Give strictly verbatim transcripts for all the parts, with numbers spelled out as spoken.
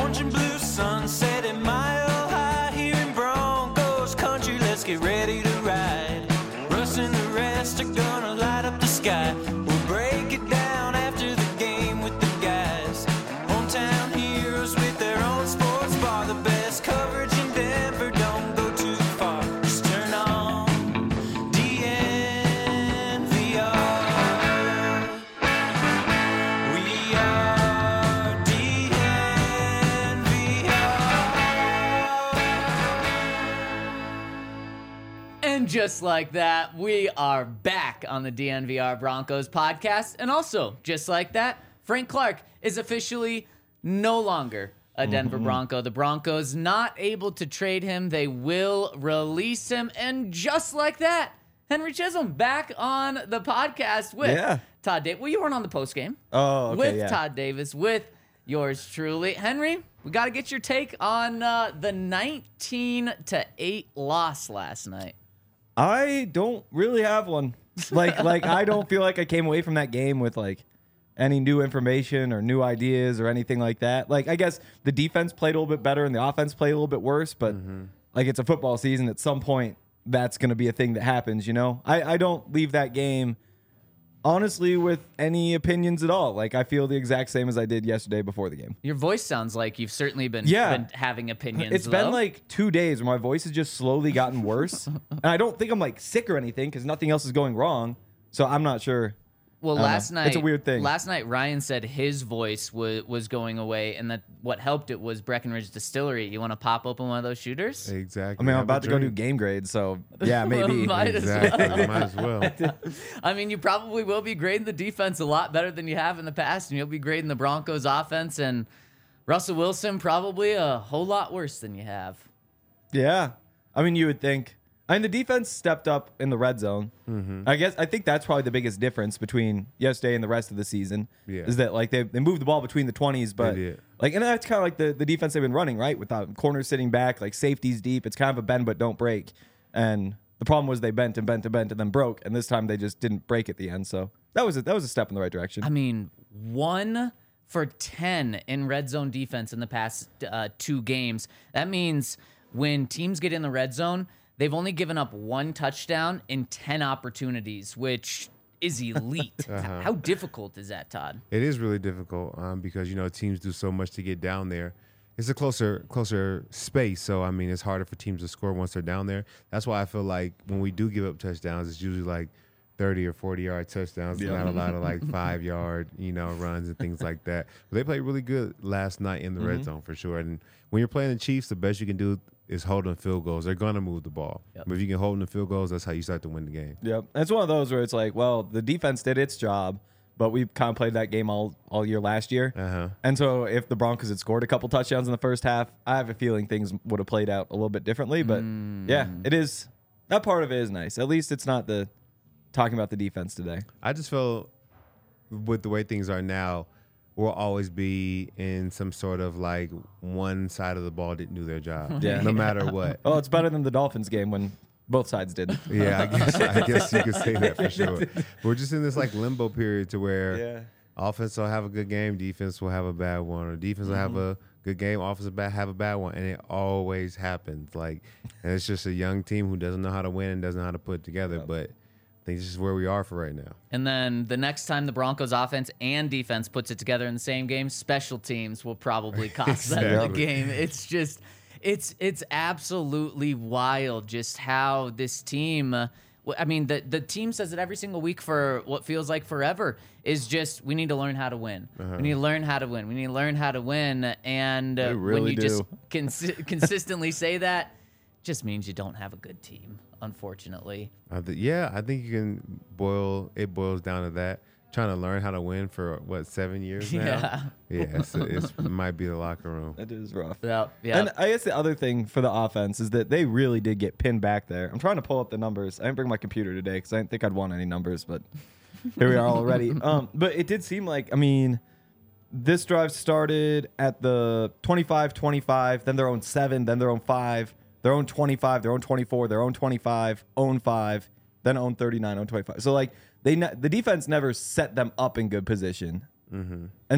orange and blue sunset at Mile High here in Broncos country. Let's get ready to ride. Russ and the rest are gonna light up the sky. We'll break it down after the game with the guys. Hometown heroes with their own sports bar. The best coverage in Denver, don't go too far. Just turn on D N V R. We are D N V R. And just like that, we are back on the D N V R Broncos podcast. And also, just like that, Frank Clark is officially no longer a Denver Mm-hmm. Bronco. The Broncos not able to trade him. They will release him. And just like that, Henry Chisholm back on the podcast with Yeah. Todd Davis. Well, you weren't on the post game. Oh, okay, With yeah. Todd Davis, with yours truly. Henry, we got to get your take on uh, the nineteen to eight loss last night. I don't really have one. Like, like I don't feel like I came away from that game with like any new information or new ideas or anything like that. Like, I guess the defense played a little bit better and the offense played a little bit worse, but like it's a football season. At some point, that's going to be a thing that happens, you know? I, I don't leave that game, honestly, with any opinions at all. Like, I feel the exact same as I did yesterday before the game. Your voice sounds like you've certainly been, Yeah. been having opinions. It's though. been like two days where my voice has just slowly gotten worse. And I don't think I'm like sick or anything because nothing else is going wrong. So I'm not sure. Well, I don't last know. night It's a weird thing. Last night, Ryan said his voice was was going away, and that what helped it was Breckenridge Distillery. You want to pop open one of those shooters? I Exactly. mean, I'm Have a about to go do drink. game grades. So yeah, maybe. Might as Exactly. Might as well. I mean, you probably will be grading the defense a lot better than you have in the past, and you'll be grading the Broncos offense and Russell Wilson probably a whole lot worse than you have. Yeah. I mean, you would think. I mean, the defense stepped up in the red zone. Mm-hmm. I guess I think that's probably the biggest difference between yesterday and the rest of the season. Yeah. Is that like they they moved the ball between the twenties, but did. like, and that's kind of like the, the defense they've been running, right? Without corners sitting back, like safeties deep. It's kind of a bend but don't break. And the problem was they bent and bent and bent and then broke, and this time they just didn't break at the end. So that was a, that was a step in the right direction. I mean, one for ten in red zone defense in the past uh, two games. That means when teams get in the red zone, they've only given up one touchdown in ten opportunities, which is elite. Uh-huh. How difficult is that, Todd? It is really difficult um, because, you know, teams do so much to get down there. It's a closer closer space, so, I mean, it's harder for teams to score once they're down there. That's why I feel like when we do give up touchdowns, it's usually like thirty or forty-yard touchdowns, Yeah. not a lot of, like, five-yard, you know, runs and things like that. But they played really good last night in the red zone for sure. And when you're playing the Chiefs, the best you can do is hold them field goals. They're going to move the ball. Yep. But if you can hold them to field goals, that's how you start to win the game. Yep. It's one of those where it's like, well, the defense did its job, but we kind of played that game all, all year last year. Uh-huh. And so if the Broncos had scored a couple touchdowns in the first half, I have a feeling things would have played out a little bit differently. But yeah, it is. That part of it is nice. At least it's not the talking about the defense today. I just feel with the way things are now, we'll always be in some sort of like one side of the ball didn't do their job. Yeah. No matter what. Well, it's better than the Dolphins game when both sides did. Yeah, I guess I guess you could say that for sure. We're just in this like limbo period to where Yeah. offense will have a good game, defense will have a bad one, or defense will have a good game, offense will ba- have a bad one, and it always happens. Like, and it's just a young team who doesn't know how to win and doesn't know how to put it together. But I think this is where we are for right now. And then the next time the Broncos offense and defense puts it together in the same game, special teams will probably cost them the Exactly. game. It's just, it's it's absolutely wild just how this team. Uh, w- I mean, the the team says it every single week for what feels like forever. Is just we need to learn how to win. We need to learn how to win. We need to learn how to win. And uh, They when really you just do. consi- consistently say that, just means you don't have a good team. Unfortunately. I th- yeah, I think you can boil it boils down to that. Trying to learn how to win for what seven years now. Yeah. Yeah, it's, it's, it might be the locker room. That is rough. Yeah. Yeah. And I guess the other thing for the offense is that they really did get pinned back there. I'm trying to pull up the numbers. I didn't bring my computer today because I didn't think I'd want any numbers, but here we are already. Um, but it did seem like, I mean, this drive started at the twenty-five twenty-five, then their own seven, then their own five, their own twenty-five, their own twenty-four, their own twenty-five, own five, then own thirty-nine, own twenty-five. So, like, they ne- the defense never set them up in good position. Mm-hmm. And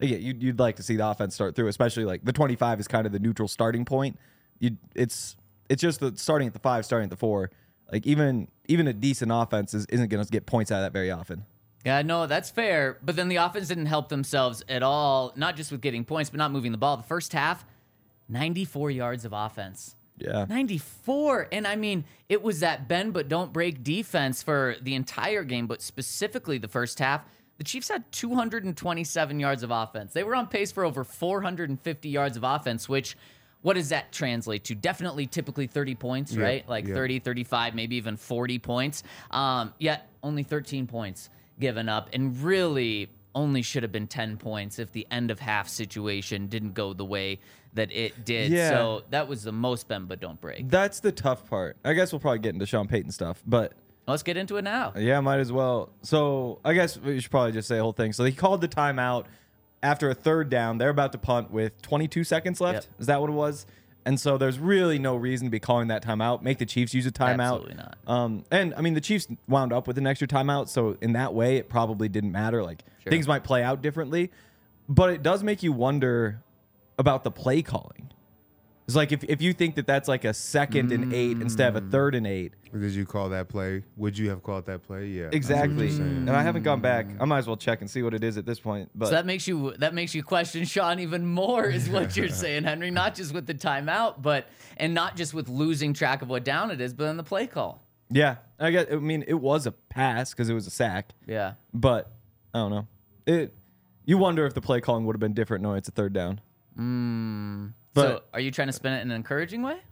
yeah, you'd, you'd like to see the offense start through, especially like the twenty-five is kind of the neutral starting point. You, it's it's just the starting at the five, starting at the four. Like even even a decent offense is, isn't going to get points out of that very often. Yeah, no, that's fair. But then the offense didn't help themselves at all, not just with getting points, but not moving the ball. The first half, ninety-four yards of offense. Yeah. ninety-four. And I mean, it was that bend but don't break defense for the entire game, but specifically the first half. The Chiefs had two hundred twenty-seven yards of offense. They were on pace for over four hundred fifty yards of offense, which, what does that translate to? Definitely typically thirty points, Yeah, right? Like yeah. thirty, thirty-five, maybe even forty points. Um, yet only thirteen points given up, and really only should have been ten points if the end of half situation didn't go the way that it did. Yeah. So that was the most bend but don't break. That's the tough part. I guess we'll probably get into Sean Payton stuff, but Let's get into it now. yeah, might as well. So I guess we should probably just say the whole thing. So he called the timeout after a third down. They're about to punt with twenty-two seconds left. Yep. Is that what it was? And so there's really no reason to be calling that timeout. Make the Chiefs use a timeout. Absolutely not. Um, and I mean, the Chiefs wound up with an extra timeout, so in that way, it probably didn't matter. Like Sure. things might play out differently, but it does make you wonder about the play calling. It's like if, if you think that that's like a second and eight instead of a third and eight. Did you call that play? Would you have called that play? Yeah. I see what Exactly. you're saying. And I haven't gone back. I might as well check and see what it is at this point. But So that makes you that makes you question Sean even more, is what you're saying, Henry. Not just with the timeout, but and not just with losing track of what down it is, but in the play call. yeah, I guess I mean it was a pass because it was a sack. Yeah. But I don't know. It. You wonder if the play calling would have been different knowing it's a third down. Mm. But- so are you trying to spin it in an encouraging way?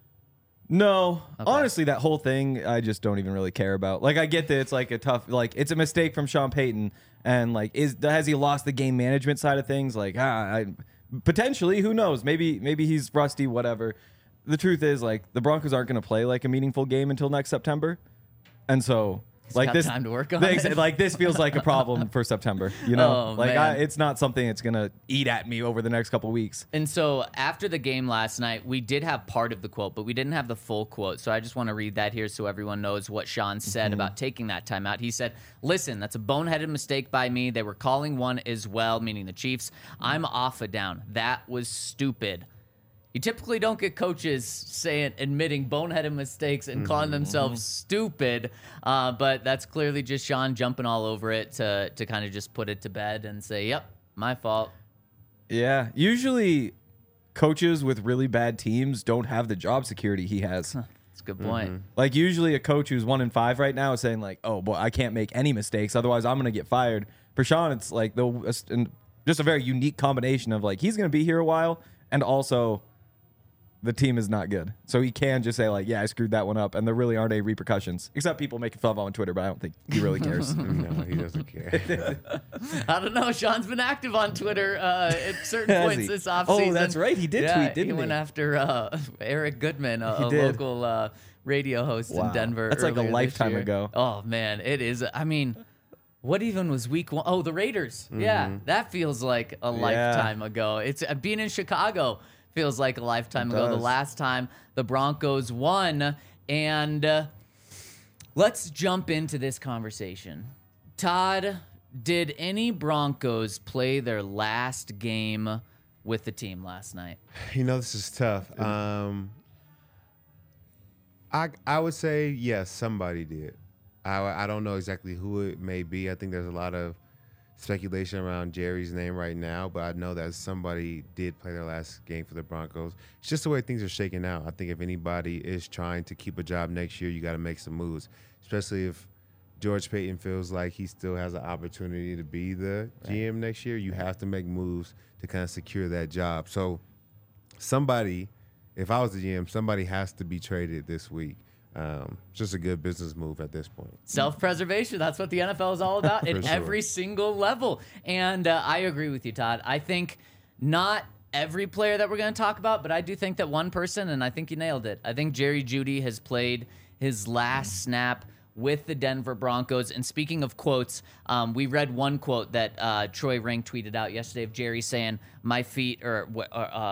No, honestly, that whole thing I just don't even really care about. Like, I get that it's like a tough, like it's a mistake from Sean Payton, and like, is has he lost the game management side of things? Like, ah, I, potentially, who knows? Maybe, maybe he's rusty, whatever. The truth is, like, the Broncos aren't going to play like a meaningful game until next September, and so. Like got this, time to work on the- it. like this feels like a problem for September. You know, Oh, like I, man. it's not something that's gonna eat at me over the next couple weeks. And so after the game last night, we did have part of the quote, but we didn't have the full quote. So I just want to read that here so everyone knows what Sean said Mm-hmm. about taking that timeout. He said, listen, that's a boneheaded mistake by me. They were calling one as well, meaning the Chiefs. I'm off a down. That was stupid. You typically don't get coaches saying, admitting boneheaded mistakes and calling themselves stupid, uh, but that's clearly just Sean jumping all over it to to kind of just put it to bed and say, yep, my fault. Yeah, usually coaches with really bad teams don't have the job security he has. That's a good point. Like usually a coach who's one in five right now is saying like, "Oh boy, I can't make any mistakes, otherwise I'm gonna get fired." For Sean, it's like the just a very unique combination of like he's gonna be here a while, and also the team is not good, so he can just say like, "Yeah, I screwed that one up," and there really aren't any repercussions except people making fun of him on Twitter. But I don't think he really cares. No, he doesn't care. I don't know. Sean's been active on Twitter uh, at certain Has points he? this Oh, offseason. that's right. He did yeah, tweet, didn't he? he? went after uh, Eric Goodman, a, He a did. local uh, radio host Wow. in Denver. That's like a earlier this lifetime year. ago. Oh, man. It is. I mean, what even was week one? Oh, the Raiders. Yeah, that feels like a lifetime ago. It's uh, being in Chicago feels like a lifetime It ago. The does. last time the Broncos won. And uh, let's jump into this conversation. Todd, did any Broncos play their last game with the team last night? You know, this is tough. Um, I I would say yes, somebody did. I I don't know exactly who it may be. I think there's a lot of speculation around Jerry's name right now, but I know that somebody did play their last game for the Broncos. It's just the way things are shaking out. I think if anybody is trying to keep a job next year, you got to make some moves, especially if George Payton feels like he still has an opportunity to be the G M next year. You have to make moves to kind of secure that job. So somebody, if I was the G M, somebody has to be traded this week. Um, it's just a good business move at this point. Self-preservation. That's what the N F L is all about at For sure. every single level. And uh, I agree with you, Todd. I think not every player that we're going to talk about, but I do think that one person, and I think you nailed it. I think Jerry Jeudy has played his last snap with the Denver Broncos. And speaking of quotes, um, we read one quote that uh, Troy Ring tweeted out yesterday of Jerry saying, my feet, or, or um,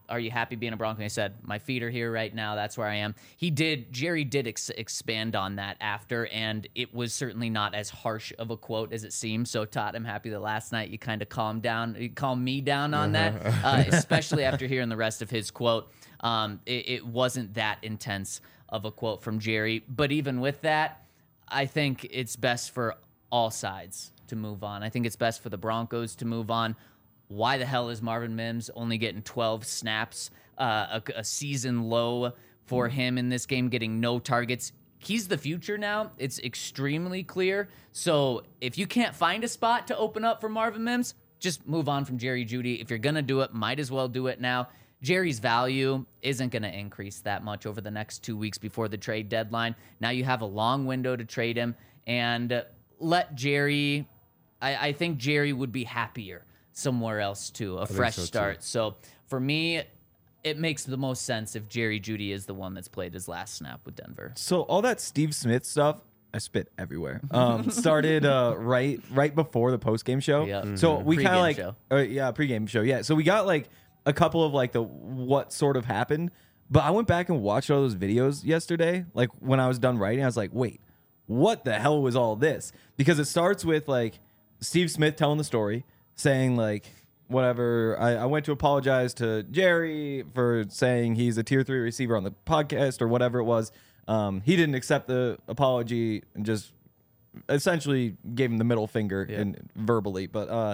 are you happy being a Bronco? And I said, my feet are here right now. That's where I am. He did, Jerry did ex- expand on that after, and it was certainly not as harsh of a quote as it seemed. So, Todd, I'm happy that last night you kind of calmed down, you calmed me down on that, uh, especially after hearing the rest of his quote. Um, it, it wasn't that intense of a quote from Jerry. But even with that, I think it's best for all sides to move on. I think it's best for the Broncos to move on. Why the hell is Marvin Mims only getting twelve snaps, uh, a, a season low for him in this game, getting no targets? He's the future now. It's extremely clear. So if you can't find a spot to open up for Marvin Mims, just move on from Jerry Jeudy. If you're going to do it, might as well do it now. Jerry's value isn't going to increase that much over the next two weeks before the trade deadline. Now you have a long window to trade him, and let Jerry, I, I think Jerry would be happier somewhere else too, a fresh so, start. too. So for me, it makes the most sense if Jerry Jeudy is the one that's played his last snap with Denver. So all that Steve Smith stuff, I spit everywhere. Um, started uh, right right before the post game show. Yep. So we kind Pre-game of like, show. uh, yeah, pregame show. Yeah. So we got like a couple of like the what sort of happened, but I went back and watched all those videos yesterday. Like when I was done writing, I was like, wait, what the hell was all this? Because it starts with like Steve Smith telling the story, saying like, whatever, I, I went to apologize to Jerry for saying he's a tier three receiver on the podcast or whatever it was. Um, he didn't accept the apology and just essentially gave him the middle finger Yeah. and verbally. But uh,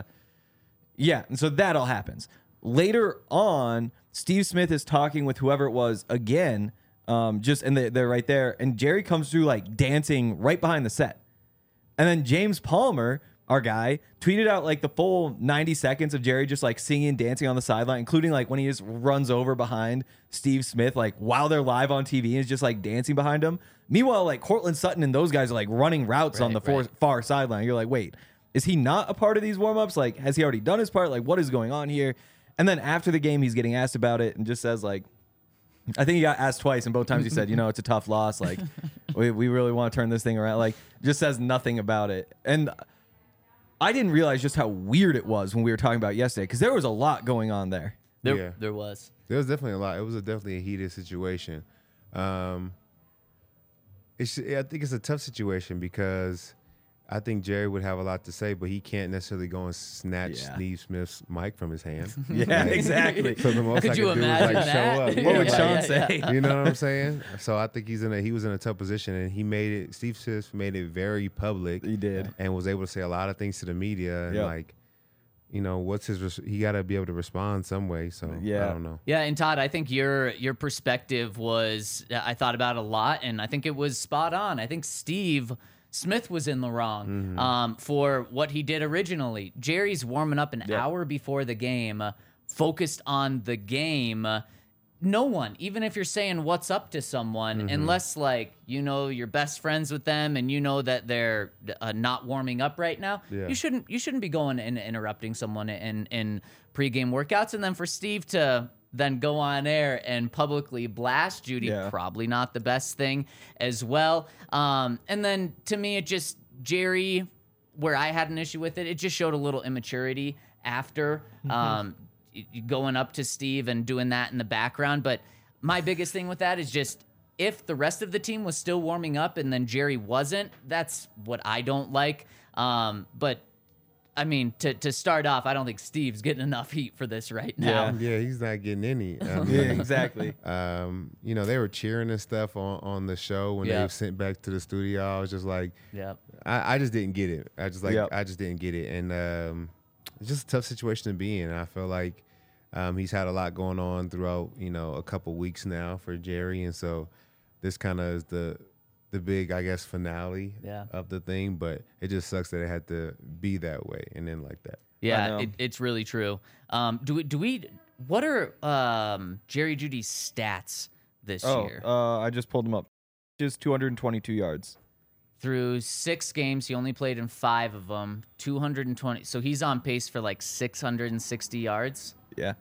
yeah, and so that all happens. Later on, Steve Smith is talking with whoever it was again, um, just and they, they're right there. And Jerry comes through like dancing right behind the set. And then James Palmer, our guy, tweeted out like the full ninety seconds of Jerry just like singing and dancing on the sideline, including like when he just runs over behind Steve Smith, like while they're live on T V and is just like dancing behind him. Meanwhile, like Cortland Sutton and those guys are like running routes on the Right, far, right. far sideline. You're like, wait, is he not a part of these warmups? Like, has he already done his part? Like, what is going on here? And then after the game, he's getting asked about it and just says like, I think he got asked twice, and both times he said, you know, it's a tough loss. Like, we, we really want to turn this thing around. Like, just says nothing about it. And I didn't realize just how weird it was when we were talking about it yesterday, because there was a lot going on there. There, Yeah. there was. There was definitely a lot. It was a, definitely a heated situation. Um, it's, I think it's a tough situation because I think Jerry would have a lot to say, but he can't necessarily go and snatch Yeah. Steve Smith's mic from his hand. Yeah, Like, exactly. So the most Could I you could do is imagine like that? show up. What Yeah, would yeah, Sean yeah, say? yeah. You know what I'm saying? So I think he's in a he was in a tough position, and he made it. Steve Smith made it very public. He did. and was able to say a lot of things to the media. And Yep. like, you know, what's his? Res- he got to be able to respond some way. So Yeah. I don't know. Yeah, and Todd, I think your your perspective was I thought about a lot, and I think it was spot on. I think Steve Smith was in the wrong Mm-hmm. um, for what he did originally. Jerry's warming up an Yep. hour before the game, uh, focused on the game. Uh, no one, even if you're saying what's up to someone, Mm-hmm. unless like you know you're best friends with them and you know that they're uh, not warming up right now, Yeah. you shouldn't you shouldn't be going and interrupting someone in in pregame workouts. And then for Steve to then go on air and publicly blast Jeudy, Yeah. probably not the best thing as well. Um, and then to me, it just Jerry, where I had an issue with it, it just showed a little immaturity after um, y- y- going up to Steve and doing that in the background. But my biggest thing with that is just if the rest of the team was still warming up and then Jerry wasn't, that's what I don't like. Um, but I mean, to to start off, I don't think Steve's getting enough heat for this right now. Yeah. Yeah, he's not getting any. I mean, Yeah, exactly. Um, you know, they were cheering and stuff on, on the show when Yeah. they were sent back to the studio. I was just like, Yep. I, I just didn't get it. I just like Yep. I just didn't get it, and um, it's just a tough situation to be in. I feel like um, he's had a lot going on throughout, you know, a couple weeks now for Jerry, and so this kind of is the the big, I guess, finale Yeah. of the thing. But it just sucks that it had to be that way and then like that. Yeah, know. it, it's really true. Um, do we? Do we? What are um, Jerry Jeudy's stats this Oh, year? uh, I just pulled him up. Just two hundred twenty-two yards. Through six games, he only played in five of them. two hundred twenty. So he's on pace for like six hundred sixty yards. Yeah.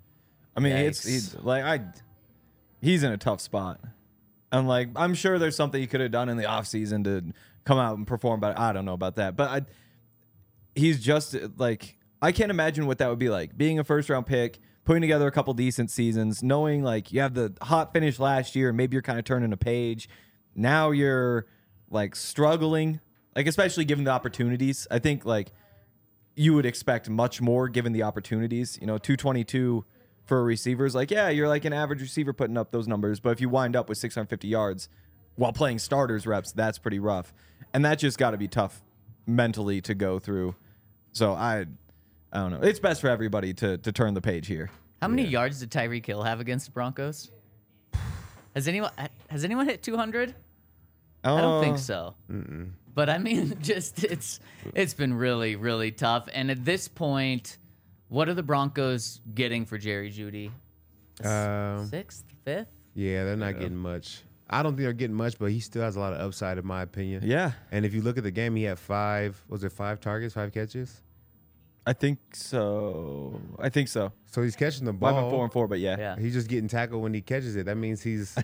I mean, it's Yikes. he's like I he's in a tough spot. And like I'm sure there's something he could have done in the offseason to come out and perform, but I don't know about that. But I he's just like I can't imagine what that would be like. Being a first round pick, putting together a couple decent seasons, knowing like you have the hot finish last year, and maybe you're kind of turning a page. Now you're like struggling, like especially given the opportunities. I think like you would expect much more given the opportunities. You know, two twenty-two for a receiver is like, yeah, you're like an average receiver putting up those numbers. But if you wind up with six hundred fifty yards while playing starters reps, that's pretty rough. And that just got to be tough mentally to go through. So I, I don't know. It's best for everybody to to turn the page here. How many yards did Tyreek Hill have against the Broncos? Has anyone has anyone hit two hundred? Uh, I don't think so. Mm-mm. But I mean, just it's it's been really really tough. And at this point, what are the Broncos getting for Jerry Jeudy? Um, Sixth, fifth? Yeah, they're not getting much. I don't think they're getting much, but he still has a lot of upside, in my opinion. Yeah. And if you look at the game, he had five. Was it five targets, five catches? I think so. I think so. So he's catching the Five ball. and four and four, but yeah. Yeah. He's just getting tackled when he catches it. That means he's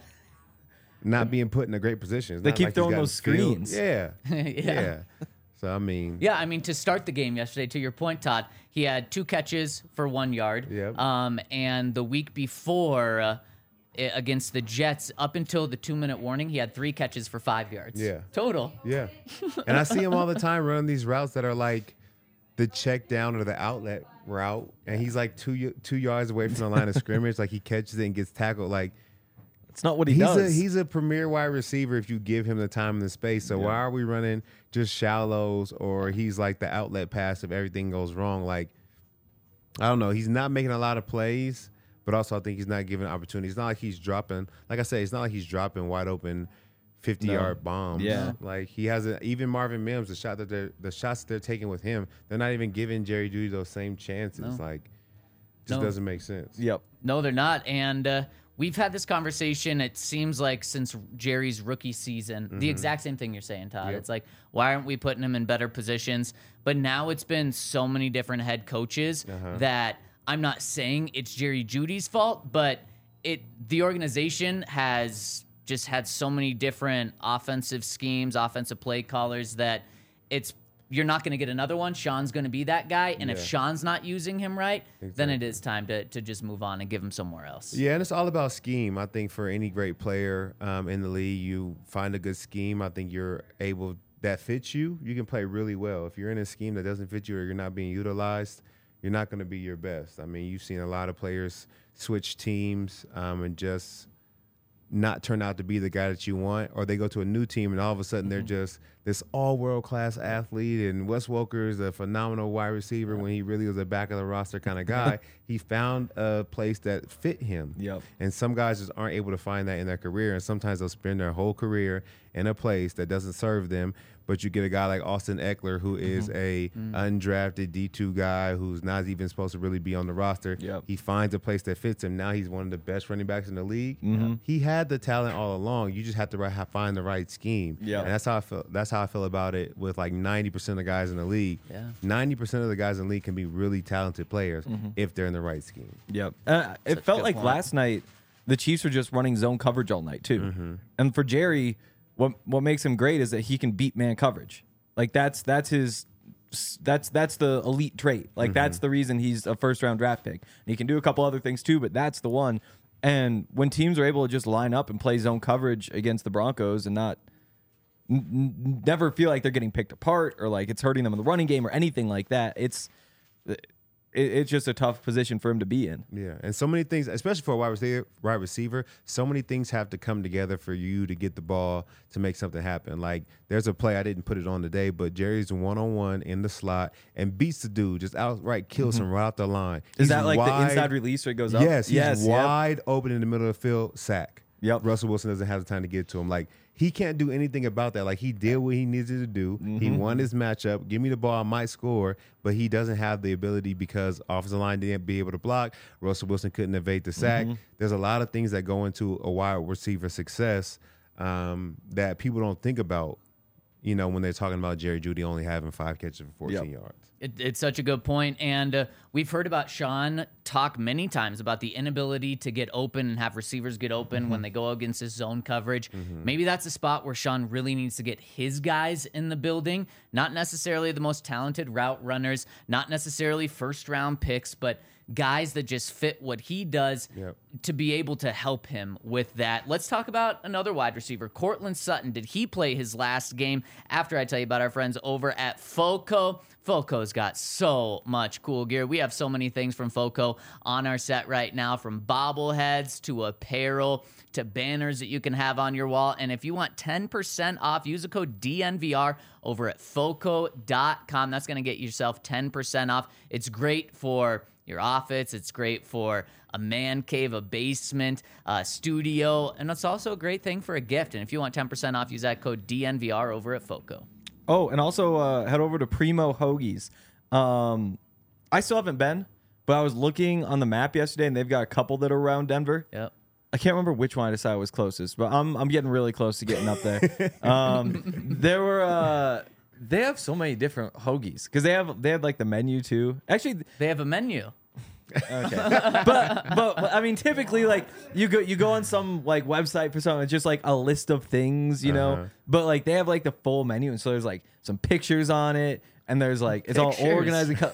not being put in a great position. It's They not keep like he's throwing gotten those filled. screens. Yeah. Yeah. yeah. So, I mean. Yeah, I mean, to start the game yesterday, to your point, Todd, he had two catches for one yard. Yep. Um, and the week before, uh, i- against the Jets, up until the two-minute warning, he had three catches for five yards. Yeah. Total. Yeah. And I see him all the time running these routes that are like the check down or the outlet route. And he's like two y- two yards away from the line of scrimmage. Like he catches it and gets tackled. Like It's not what he he's does. a he's a premier wide receiver if you give him the time and the space. So why are we running just shallows or he's like the outlet pass if everything goes wrong? Like, I don't know. He's not making a lot of plays, but also I think he's not giving opportunities. It's not like he's dropping, like I say, it's not like he's dropping wide open fifty-yard bombs. Yeah. Like he has a, even Marvin Mims, the shot that they're the shots they're taking with him, they're not even giving Jerry Jeudy those same chances. No. Like, just No. doesn't make sense. Yep. No, they're not. And uh, we've had this conversation, it seems like, since Jerry's rookie season. The exact same thing you're saying, Todd. Yep. It's like, why aren't we putting him in better positions? But now it's been so many different head coaches that I'm not saying it's Jerry Judy's fault, but it the organization has just had so many different offensive schemes, offensive play callers that it's you're not going to get another one. Sean's going to be that guy, and if Yeah. Sean's not using him right, then it Exactly. is time to to just move on and give him somewhere else. Yeah, and it's all about scheme. I think for any great player um, in the league, you find a good scheme. I think you're able that fits you. You can play really well. If you're in a scheme that doesn't fit you or you're not being utilized, you're not going to be your best. I mean, you've seen a lot of players switch teams um, and just not turn out to be the guy that you want, or they go to a new team and all of a sudden they're just this all world class athlete. And Wes Welker is a phenomenal wide receiver when he really was a back of the roster kind of guy. He found a place that fit him. Yep. And some guys just aren't able to find that in their career. And sometimes they'll spend their whole career in a place that doesn't serve them. But you get a guy like Austin Eckler, who is a undrafted D two guy who's not even supposed to really be on the roster. Yep. He finds a place that fits him. Now he's one of the best running backs in the league. He had the talent all along. You just have to ri- have, find the right scheme. Yep. And that's how I feel. That's how I feel about it with like ninety percent of the guys in the league. Yeah. ninety percent of the guys in the league can be really talented players if they're in the right scheme. Yep. Uh, it Such a felt good like point. last night the Chiefs were just running zone coverage all night too. And for Jerry, what what makes him great is that he can beat man coverage. Like that's that's his that's that's the elite trait. Like that's the reason he's a first round draft pick. And he can do a couple other things too, but that's the one. And when teams are able to just line up and play zone coverage against the Broncos and not n- n- never feel like they're getting picked apart or like it's hurting them in the running game or anything like that, it's it, it's just a tough position for him to be in. Yeah, and so many things, especially for a wide receiver, wide receiver, so many things have to come together for you to get the ball to make something happen. Like there's a play, I didn't put it on today, but Jerry's one-on-one in the slot and beats the dude, just outright kills him right off the line. Is He's that like the wide- inside release where it goes up? Yes, he's yes, yep. wide open in the middle of the field, sack. Yep. Russell Wilson doesn't have the time to get to him. Like he can't do anything about that. Like he did what he needed to do. Mm-hmm. He won his matchup. Give me the ball, I might score, but he doesn't have the ability because offensive line didn't be able to block. Russell Wilson couldn't evade the sack. Mm-hmm. There's a lot of things that go into a wide receiver success um, that people don't think about you know, when they're talking about Jerry Jeudy only having five catches for fourteen Yep. yards. It, it's such a good point, and uh, we've heard about Sean talk many times about the inability to get open and have receivers get open Mm-hmm. when they go against his zone coverage. Maybe that's a spot where Sean really needs to get his guys in the building, not necessarily the most talented route runners, not necessarily first-round picks, but guys that just fit what he does Yep. to be able to help him with that. Let's talk about another wide receiver, Cortland Sutton. Did he play his last game? After I tell you about our friends over at Foco. Foco's got so much cool gear. We have so many things from Foco on our set right now, from bobbleheads to apparel to banners that you can have on your wall. And if you want ten percent off, use the code D N V R over at foco dot com. That's going to get yourself ten percent off. It's great for your office. It's great for a man cave, a basement, a studio, and it's also a great thing for a gift. And if you want ten percent off, use that code D N V R over at Foco. Oh, and also uh, head over to Primo Hoagies. Um, I still haven't been, but I was looking on the map yesterday, and they've got a couple that are around Denver. Yep. I can't remember which one I decided was closest, but I'm I'm getting really close to getting up there. um, there were uh, they have so many different hoagies because they have they had like the menu too. Actually, They have a menu. okay, but but I mean typically like you go you go on some like website for something, it's just like a list of things, you know. Uh-huh. But like they have like the full menu, and so there's like some pictures on it, and there's like it's Pictures. all organized. And co-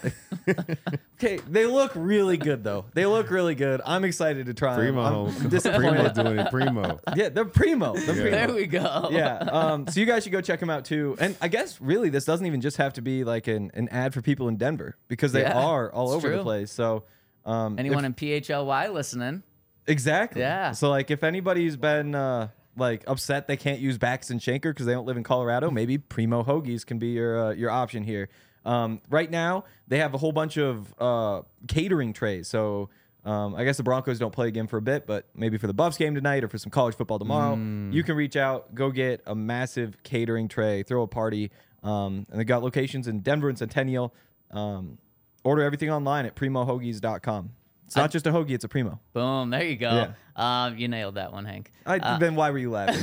okay, they look really good though. They look really good. I'm excited to try them. Primo, I'm disappointed. Primo doing it. Primo. Yeah, they're primo. They're primo. There we go. Yeah. Um, so you guys should go check them out too. And I guess really this doesn't even just have to be like an, an ad for people in Denver because they Yeah, are all it's over true. the place. So um, Anyone if- in P H L Y listening? exactly. Yeah. So like if anybody's been uh, like upset they can't use Bax and Schenker because they don't live in Colorado, maybe Primo Hoagies can be your uh, your option here. Um, right now they have a whole bunch of uh, catering trays. So um, I guess the Broncos don't play again for a bit, but maybe for the Buffs game tonight or for some college football tomorrow, you can reach out, go get a massive catering tray, throw a party. Um, and they got locations in Denver and Centennial. Um, order everything online at primo hoagies dot com. It's not just a hoagie, it's a primo. Boom. There you go. Um, you nailed that one, Hank. I, Uh, then why were you laughing?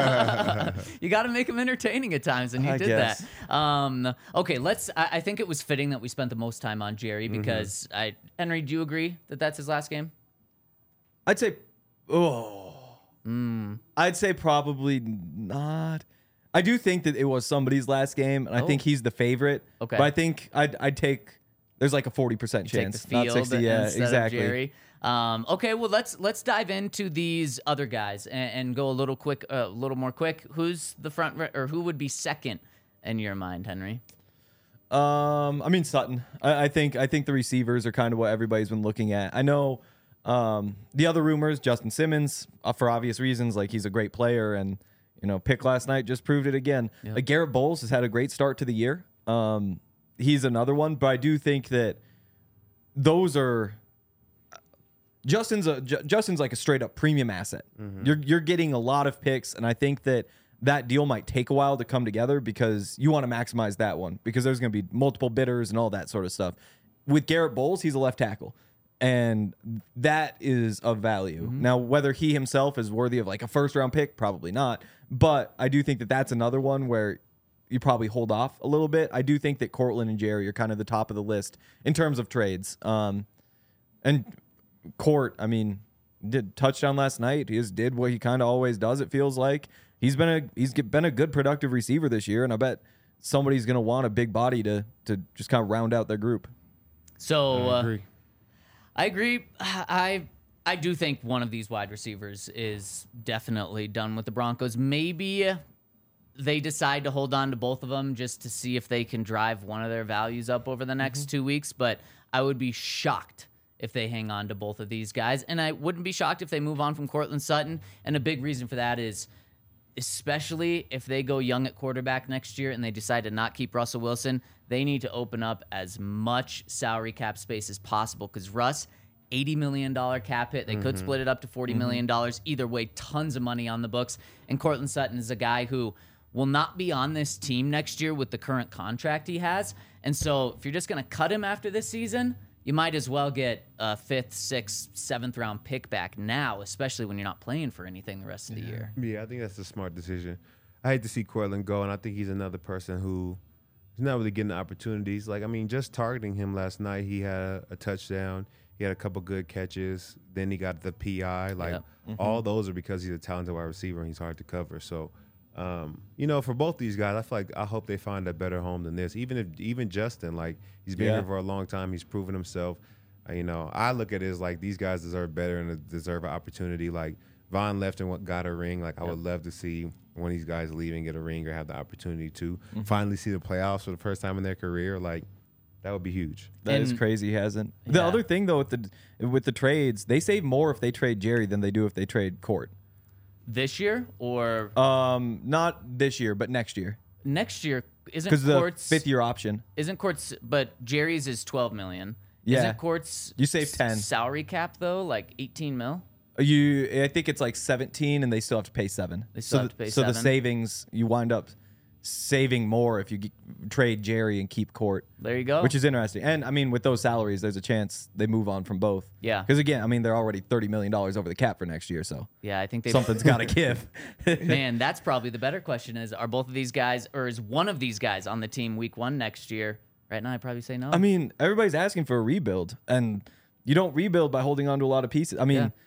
You got to make them entertaining at times, and you I did guess. that. Um, okay, let's. I, I think it was fitting that we spent the most time on Jerry Mm-hmm. because I. Henry, do you agree that that's his last game? I'd say, oh, Mm. I'd say probably not. I do think that it was somebody's last game, and I think Oh. he's the favorite. Okay. But I think I'd, I'd take, there's like a forty percent Take chance. the field not sixty, yeah, instead exactly. of Jerry. Um, okay, well let's let's dive into these other guys and, and go a little quick, a uh, little more quick. Who's the front re- or who would be second in your mind, Henry? Um, I mean Sutton. I, I think I think the receivers are kind of what everybody's been looking at. I know um, the other rumors, Justin Simmons, uh, for obvious reasons, like he's a great player, and you know, pick last night just proved it again. Yep. Like Garrett Bowles has had a great start to the year. Um, he's another one, but I do think that those are Justin's a J- Justin's like a straight up premium asset. You're you're getting a lot of picks, and I think that that deal might take a while to come together because you want to maximize that one because there's going to be multiple bidders and all that sort of stuff. With Garrett Bowles, he's a left tackle, and that is of value. Now, whether he himself is worthy of like a first round pick, probably not. But I do think that that's another one where you probably hold off a little bit. I do think that Cortland and Jerry are kind of the top of the list in terms of trades. Um, and Court, I mean, did touchdown last night. He just did what he kind of always does. It feels like he's been a he's been a good productive receiver this year, and I bet somebody's going to want a big body to to just kind of round out their group. So I uh, agree. I agree. I I do think one of these wide receivers is definitely done with the Broncos. Maybe they decide to hold on to both of them just to see if they can drive one of their values up over the next two weeks. But I would be shocked if they hang on to both of these guys. And I wouldn't be shocked if they move on from Cortland Sutton. And a big reason for that is, especially if they go young at quarterback next year and they decide to not keep Russell Wilson, they need to open up as much salary cap space as possible because Russ, eighty million dollars cap hit. They could split it up to forty million dollars. Either way, tons of money on the books. And Cortland Sutton is a guy who will not be on this team next year with the current contract he has. And so if you're just going to cut him after this season, you might as well get a fifth, sixth, seventh round pick back now, especially when you're not playing for anything the rest of the year. Yeah, I think that's a smart decision. I hate to see Cortland go, and I think he's another person who he's not really getting the opportunities. Like, I mean, just targeting him last night, he had a, a touchdown. He had a couple good catches. Then he got the P I. Like, Yep. Mm-hmm. all those are because he's a talented wide receiver and he's hard to cover. So, um, you know, for both these guys, I feel like I hope they find a better home than this. Even if even Justin, like, he's been Yeah. here for a long time. He's proven himself. Uh, you know, I look at it as like these guys deserve better and deserve an opportunity. Like, Von left and what got a ring. Like, I would love to see one of these guys leave and get a ring or have the opportunity to Mm-hmm. finally see the playoffs for the first time in their career. Like, that would be huge. That is And- crazy. He hasn't. The Yeah. other thing though with the with the trades, they save more if they trade Jerry than they do if they trade Court. This year or Um, not this year, but next year next year? Isn't because the Court's fifth year option. Isn't Court's? But Jerry's is twelve million. Yeah. Isn't Court's You save s- ten. salary cap though, like eighteen mil? You, I think it's like seventeen, and they still have to pay seven. They still so have the, to pay so the seven. savings you wind up saving more if you g- trade Jerry and keep Court. There you go. Which is interesting. And I mean, with those salaries, there's a chance they move on from both. Yeah. Because again, I mean, they're already thirty million dollars over the cap for next year, so yeah, I think they something's got to give. Man, that's probably the better question: is are both of these guys, or is one of these guys on the team week one next year? Right now, I'd probably say no. I mean, everybody's asking for a rebuild, and you don't rebuild by holding on to a lot of pieces. I mean, Yeah.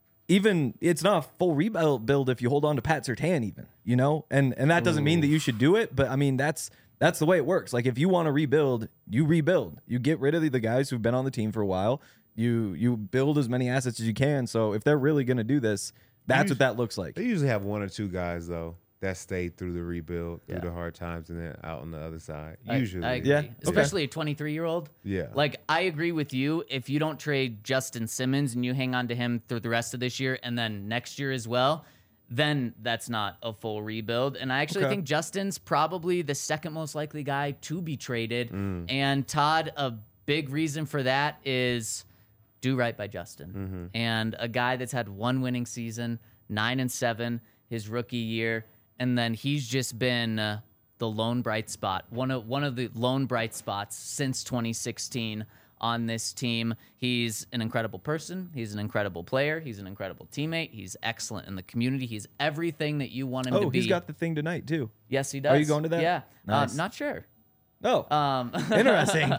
even it's not a full rebuild build if you hold on to Pat Surtain, even, you know, and and that doesn't mean that you should do it, but I mean that's that's the way it works. Like if you want to rebuild, you rebuild. You get rid of the, the guys who've been on the team for a while. You you build as many assets as you can. So if they're really going to do this, that's what that looks like. They usually have one or two guys, though, that stayed through the rebuild, Yeah. through the hard times, and then out on the other side. I- Usually. I agree. Yeah, okay. Especially a twenty-three-year-old. Yeah. Like, I agree with you. If you don't trade Justin Simmons and you hang on to him through the rest of this year and then next year as well, then that's not a full rebuild. And I actually Okay. think Justin's probably the second most likely guy to be traded. Mm. And Todd, a big reason for that is do right by Justin. Mm-hmm. And a guy that's had one winning season, nine and seven, his rookie year, and then he's just been uh, the lone bright spot, one of one of the lone bright spots since twenty sixteen on this team. He's an incredible person. He's an incredible player. He's an incredible teammate. He's excellent in the community. He's everything that you want him to Oh, be. he's got the thing tonight too. Yes, he does. Are you going to that? Yeah. Nice. Um, not sure. Oh, Um, interesting.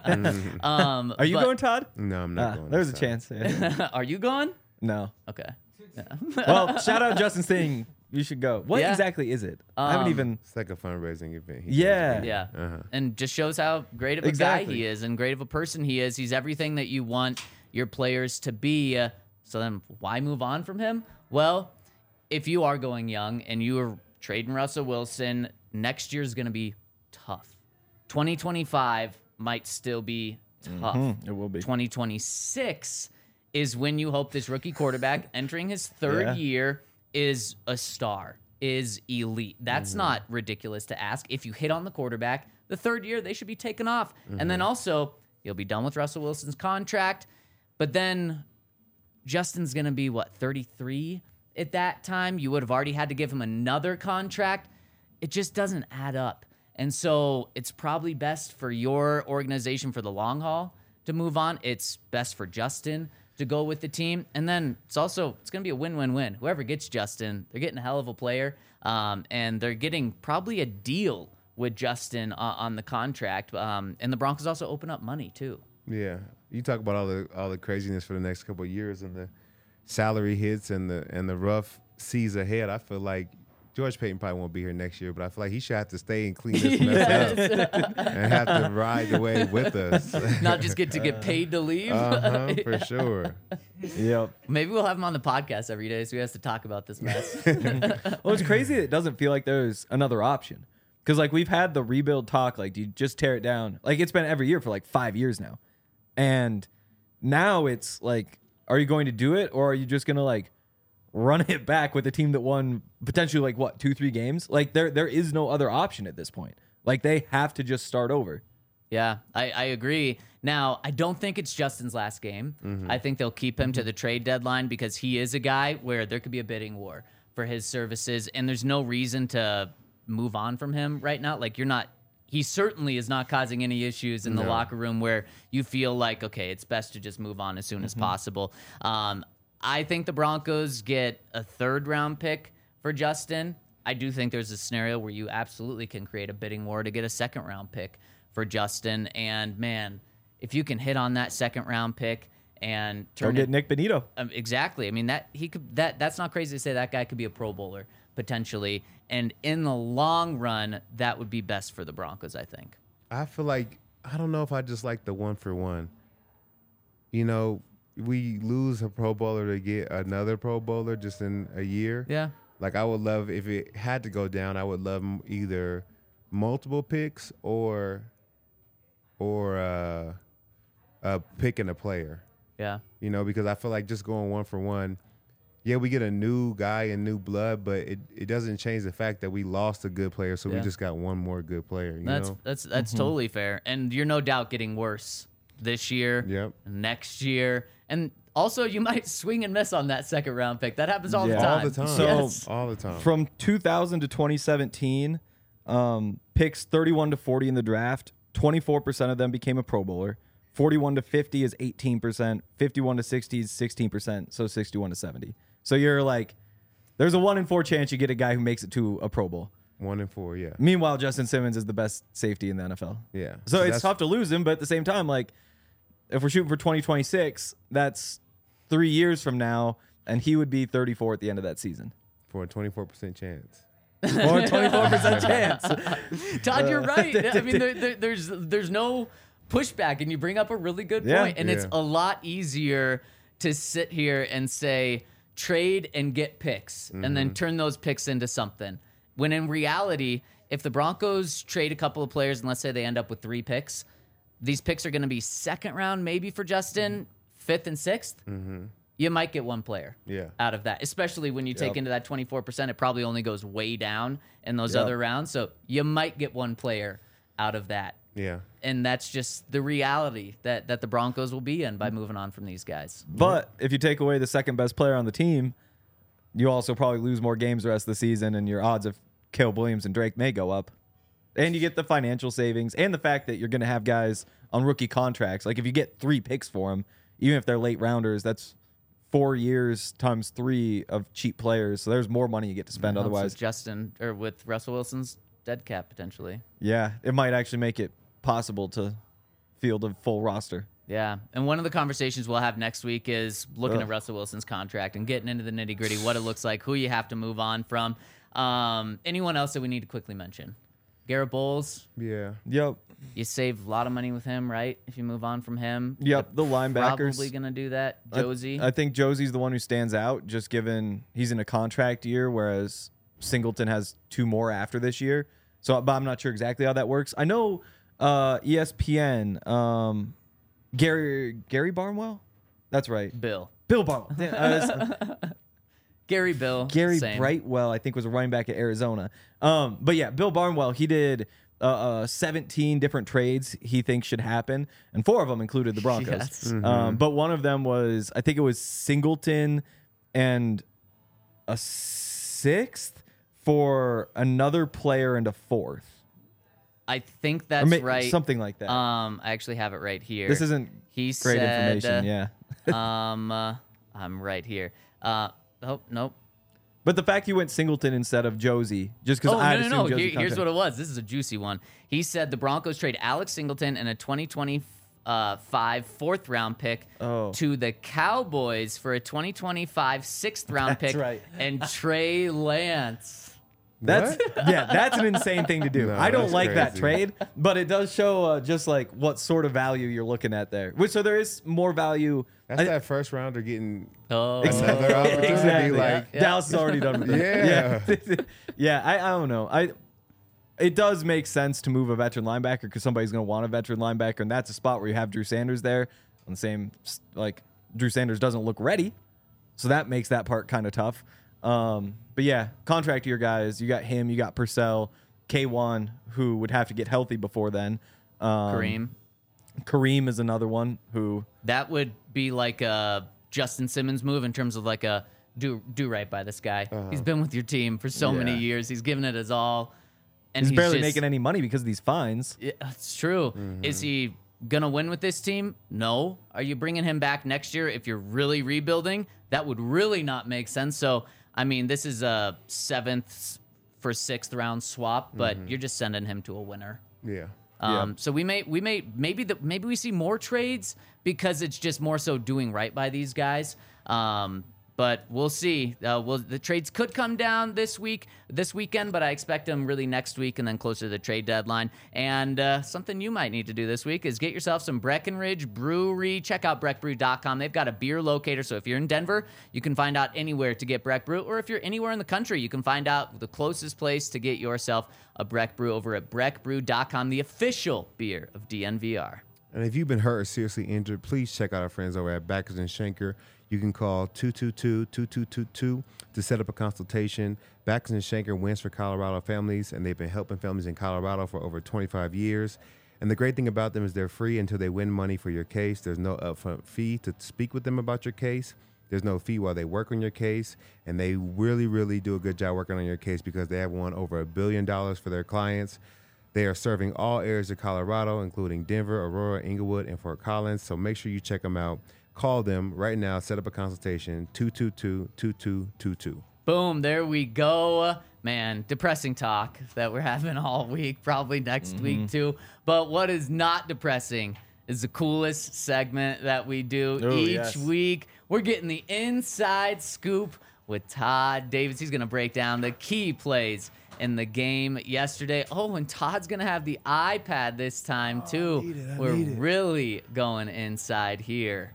um, Are you but- going, Todd? No, I'm not Ah, going. there's a this time. chance. Yeah. Are you going? No. Okay. Well, shout out Justin Sting. You should go. What Yeah. exactly is it? I haven't Um, even. It's like a fundraising event. He Yeah. does. Yeah. Uh-huh. And just shows how great of a Exactly. guy he is and great of a person he is. He's everything that you want your players to be. Uh, so then why move on from him? Well, if you are going young and you are trading Russell Wilson, next year is going to be tough. twenty twenty-five might still be tough. It will be. twenty twenty-six is when you hope this rookie quarterback entering his third Yeah. year is a star, is elite. That's not ridiculous to ask. If you hit on the quarterback, the third year they should be taken off. And then also, you'll be done with Russell Wilson's contract. But then Justin's going to be, what, thirty-three at that time? You would have already had to give him another contract. It just doesn't add up. And so it's probably best for your organization for the long haul to move on. It's best for Justin to go with the team. And then it's also, it's going to be a win-win-win. Whoever gets Justin, they're getting a hell of a player. Um, and they're getting probably a deal with Justin on, on the contract. Um, and the Broncos also open up money too. Yeah, you talk about all the all the craziness for the next couple of years and the salary hits and the and the rough seas ahead. I feel like George Payton probably won't be here next year, but I feel like he should have to stay and clean this mess up and have to ride the wave with us. Not just get to get paid to leave. Uh-huh, for sure. Yep. Maybe we'll have him on the podcast every day so he has to talk about this mess. Well, it's crazy that it doesn't feel like there's another option. Because, like, we've had the rebuild talk. Like, do you just tear it down? Like, it's been every year for, like, five years now. And now it's, like, are you going to do it? Or are you just going to, like, run it back with a team that won potentially, like, what, two, three games? Like, there there is no other option at this point. Like, they have to just start over. Yeah, I, I agree. Now, I don't think it's Justin's last game. I think they'll keep him to the trade deadline because he is a guy where there could be a bidding war for his services, and there's no reason to move on from him right now. Like, you're not, he certainly is not causing any issues in the locker room where you feel like, okay, it's best to just move on as soon as possible. Um, I think the Broncos get a third round pick for Justin. I do think there's a scenario where you absolutely can create a bidding war to get a second round pick for Justin. And man, if you can hit on that second round pick and Go turn get it, Nick Benito. um, exactly. I mean that he could that that's not crazy to say that guy could be a Pro Bowler potentially. And in the long run, that would be best for the Broncos, I think. I feel like I don't know if I just like the one for one. You know, we lose a Pro Bowler to get another Pro Bowler just in a year. Yeah. Like I would love if it had to go down. I would love m- either multiple picks or or uh, a pick and a player. Yeah. You know, because I feel like just going one for one. Yeah, we get a new guy and new blood, but it, it doesn't change the fact that we lost a good player, so Yeah. we just got one more good player. You That's know? that's that's totally fair. And you're no doubt getting worse this year, Yep. next year. And also you might swing and miss on that second round pick. That happens all Yeah. the time. All the time. So- Yes. all the time. From two thousand to twenty seventeen, um, picks thirty-one to forty in the draft, twenty-four percent of them became a Pro Bowler. forty-one to fifty is eighteen percent. fifty-one to sixty is sixteen percent. So sixty-one to seventy. So you're like, there's a one in four chance you get a guy who makes it to a Pro Bowl. One and four, yeah. Meanwhile, Justin Simmons is the best safety in the N F L. Yeah. So, So it's that's- tough to lose him, but at the same time, like, if we're shooting for twenty twenty-six, that's three years from now, and he would be thirty-four at the end of that season. For a twenty-four percent chance. Or a twenty-four percent chance. Todd, Uh, you're right. I mean, there, there, there's there's no pushback, and you bring up a really good Yeah. point. And it's Yeah. a lot easier to sit here and say trade and get picks, and then turn those picks into something. When in reality, if the Broncos trade a couple of players, and let's say they end up with three picks, these picks are going to be second round maybe for Justin, fifth and sixth. You might get one player Yeah. out of that, especially when you take Yep. into that twenty-four percent. It probably only goes way down in those Yep. other rounds. So you might get one player out of that. Yeah. And that's just the reality that, that the Broncos will be in by moving on from these guys. But if you take away the second best player on the team, you also probably lose more games the rest of the season, and your odds of Caleb Williams and Drake may go up. And you get the financial savings and the fact that you're going to have guys on rookie contracts. Like if you get three picks for them, even if they're late rounders, that's four years times three of cheap players. So there's more money you get to spend Helps otherwise. with Justin or with Russell Wilson's dead cap potentially. Yeah, it might actually make it possible to field a full roster. Yeah, and one of the conversations we'll have next week is looking Ugh. at Russell Wilson's contract and getting into the nitty gritty, what it looks like, who you have to move on from. Um, anyone else that we need to quickly mention? Garrett Bowles, Yeah. Yep. you save a lot of money with him, right? If you move on from him. Yep, the linebackers. Probably going to do that. I- Josie. I, think Josie's the one who stands out, just given he's in a contract year, whereas Singleton has two more after this year. So, but I'm not sure exactly how that works. I know uh, E S P N, um, Gary Gary Barnwell. That's right, Bill. Bill Barnwell. Damn, I was- Gary Bill. Gary same. Brightwell, I think, was a running back at Arizona. Um, but yeah, Bill Barnwell, he did uh, uh, seventeen different trades he thinks should happen, and four of them included the Broncos. Yes. Um, but one of them was, I think it was Singleton and a sixth for another player and a fourth. I think Or that's ma- right. Something like that. Um, I actually have it right here. this isn't he great said, information, yeah. um, uh, I'm right here. Uh, oh, nope. But the fact he went Singleton instead of Josie, just because Oh, I no, no, no. Josie Here, here's contract- what it was. This is a juicy one. He said the Broncos trade Alex Singleton and a twenty twenty-five fourth round pick Oh. to the Cowboys for a twenty twenty-five sixth round That's pick right. and Trey Lance. That's yeah, that's an insane thing to do. No, I don't that's like that crazy. trade, but it does show uh, just like what sort of value you're looking at there. Which so there is more value. That's I- that first rounder getting Oh, another opportunity. exactly. Like, Yeah. Dallas has already done with that. Yeah. yeah, yeah. I, I don't know. I it does make sense to move a veteran linebacker because somebody's going to want a veteran linebacker, and that's a spot where you have Drew Sanders there. On the same like Drew Sanders doesn't look ready, so that makes that part kind of tough. Um, but yeah, contract year guys, you got him, you got Purcell, K one, who would have to get healthy before then. Um, Kareem. Kareem is another one who That would be like a Justin Simmons move in terms of like a do do right by this guy. He's been with your team for so many Yeah. years. He's given it his all. And he's, barely just- making any money because of these fines. Yeah, it's true. Is he gonna win with this team? No. Are you bringing him back next year if you're really rebuilding? That would really not make sense. So, I mean, this is a seventh, for sixth round swap, but you're just sending him to a winner. Yeah. Um, So we may we may maybe the maybe we see more trades because it's just more so doing right by these guys. Um, but we'll see. Uh, well, the trades could come down this week, this weekend, but I expect them really next week and then closer to the trade deadline. And uh, something you might need to do this week is get yourself some Breckenridge Brewery. Check out breck brew dot com. They've got a beer locator, so if you're in Denver, you can find out anywhere to get Breck Brew, or if you're anywhere in the country, you can find out the closest place to get yourself a Breck Brew over at breck brew dot com, the official beer of D N V R. And if you've been hurt or seriously injured, please check out our friends over at Backers and Schenker. You can call two two two, two two two two to set up a consultation. Backers and Schenker wins for Colorado families, and they've been helping families in Colorado for over twenty-five years. And the great thing about them is they're free until they win money for your case. There's no upfront fee to speak with them about your case. There's no fee while they work on your case, and they really, really do a good job working on your case because they have won over a billion dollars for their clients. They are serving all areas of Colorado, including Denver, Aurora, Inglewood, and Fort Collins. So make sure you check them out. Call them right now. Set up a consultation, two two two, two two two two. Boom, there we go. Man, depressing talk that we're having all week, probably next Mm-hmm. week too. But what is not depressing is the coolest segment that we do Oh, each yes. week. We're getting the inside scoop with Todd Davis. He's going to break down the key plays in the game yesterday. Oh, and Todd's going to have the iPad this time too. need it, I We're need it. really going inside here.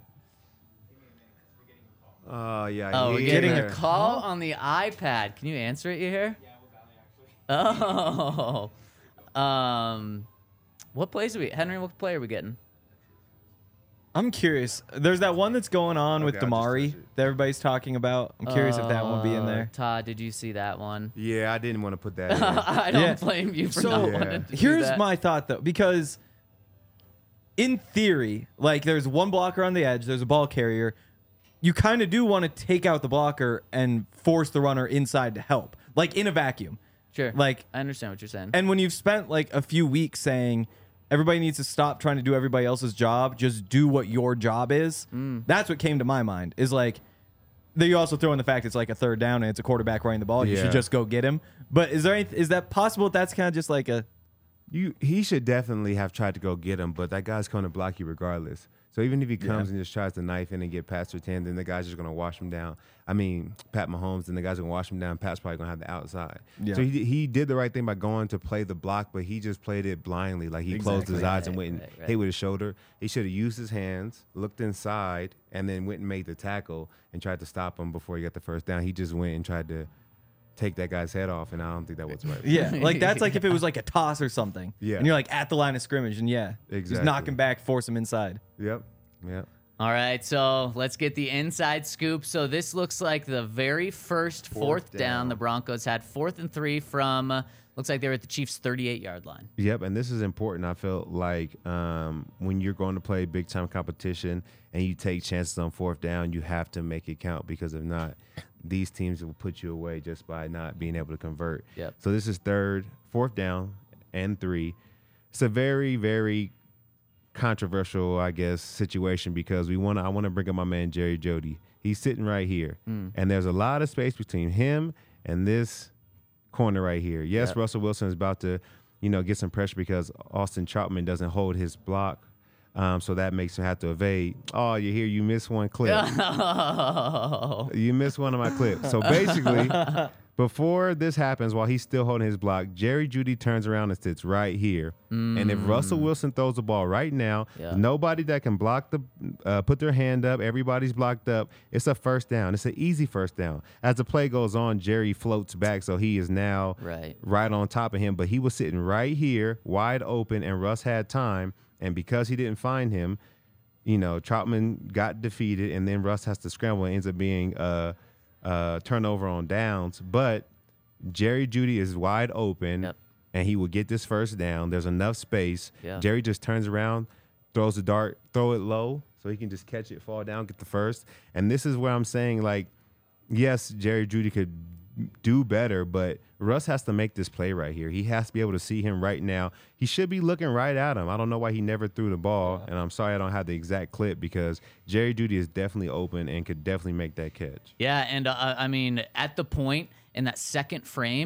Oh, yeah. Oh, we're yeah. getting Getting a a call on the iPad. Can you answer it, you hear? Yeah, we're actually. Oh. Um, what plays are we? Henry, what play are we getting? I'm curious. There's that one that's going on with Okay, I'll just Damari touch it. that everybody's talking about. I'm curious if that one will be in Uh, there. Todd, did you see that one? Yeah, I didn't want to put that in. I don't Yeah. blame you for So, not Yeah. wanting to do Here's that. my thought though, because in theory, like there's one blocker on the edge, there's a ball carrier. You kind of do want to take out the blocker and force the runner inside to help, like in a vacuum. Sure. Like, I understand what you're saying. and when you've spent like a few weeks saying everybody needs to stop trying to do everybody else's job, just do what your job is. Mm. That's what came to my mind. Is like, then you also throw in the fact it's like a third down and it's a quarterback running the ball. You Yeah. should just go get him. But is there any, is that possible? That's kind of just like a You, he should definitely have tried to go get him, but that guy's going to block you regardless. So even if he comes Yeah. and just tries to knife in and get past or ten, then the guy's just going to wash him down. I mean, Pat Mahomes, then the guy's going to wash him down. Pat's probably going to have the outside. Yeah. So he, he did the right thing by going to play the block, but he just played it blindly. Like he closed his Exactly. eyes and Right, went and right, right. hit with his shoulder. He should have used his hands, looked inside, and then went and made the tackle and tried to stop him before he got the first down. He just went and tried to take that guy's head off, and I don't think that was right. yeah, like that's like if it was like a toss or something. Yeah. and you're like at the line of scrimmage, and yeah, just Exactly. knock him back, force him inside. Yep. Yep. All right, so let's get the inside scoop. So this looks like the very first fourth, Fourth down. down. The Broncos had fourth and three from, uh, looks like they were at the Chiefs' thirty-eight yard line. Yep, and this is important. I felt like um, when you're going to play big time competition and you take chances on fourth down, you have to make it count because if not, these teams will put you away just by not being able to convert. Yep. So this is third, fourth down, and three. It's a very, very controversial, I guess, situation because we want to. I want to bring up my man Jerry Jeudy. He's sitting right here, Mm. and there's a lot of space between him and this corner right here. Yes, Yep. Russell Wilson is about to, you know, get some pressure because Austin Troutman doesn't hold his block, um, so that makes him have to evade. Oh, you hear? You missed one clip. Oh, You missed one of my clips. So basically, before this happens, while he's still holding his block, Jerry Jeudy turns around and sits right here. And if Russell Wilson throws the ball right now, Yeah. nobody that can block the, uh, put their hand up, everybody's blocked up. It's a first down. It's an easy first down. As the play goes on, Jerry floats back, so he is now Right. right on top of him. But he was sitting right here, wide open, and Russ had time. And because he didn't find him, you know, Troutman got defeated, and then Russ has to scramble. It ends up being a, a turnover on downs. But Jerry Jeudy is wide open, Yep. and he will get this first down. There's enough space. Yeah. Jerry just turns around, throws the dart, throw it low, so he can just catch it, fall down, get the first. And this is where I'm saying, like, yes, Jerry Jeudy could do better, but Russ has to make this play right here. He has to be able to see him right now. He should be looking right at him. I don't know why he never threw the ball, and I'm sorry I don't have the exact clip because Jerry Jeudy is definitely open and could definitely make that catch. Yeah, and uh, I mean, at the point in that second frame,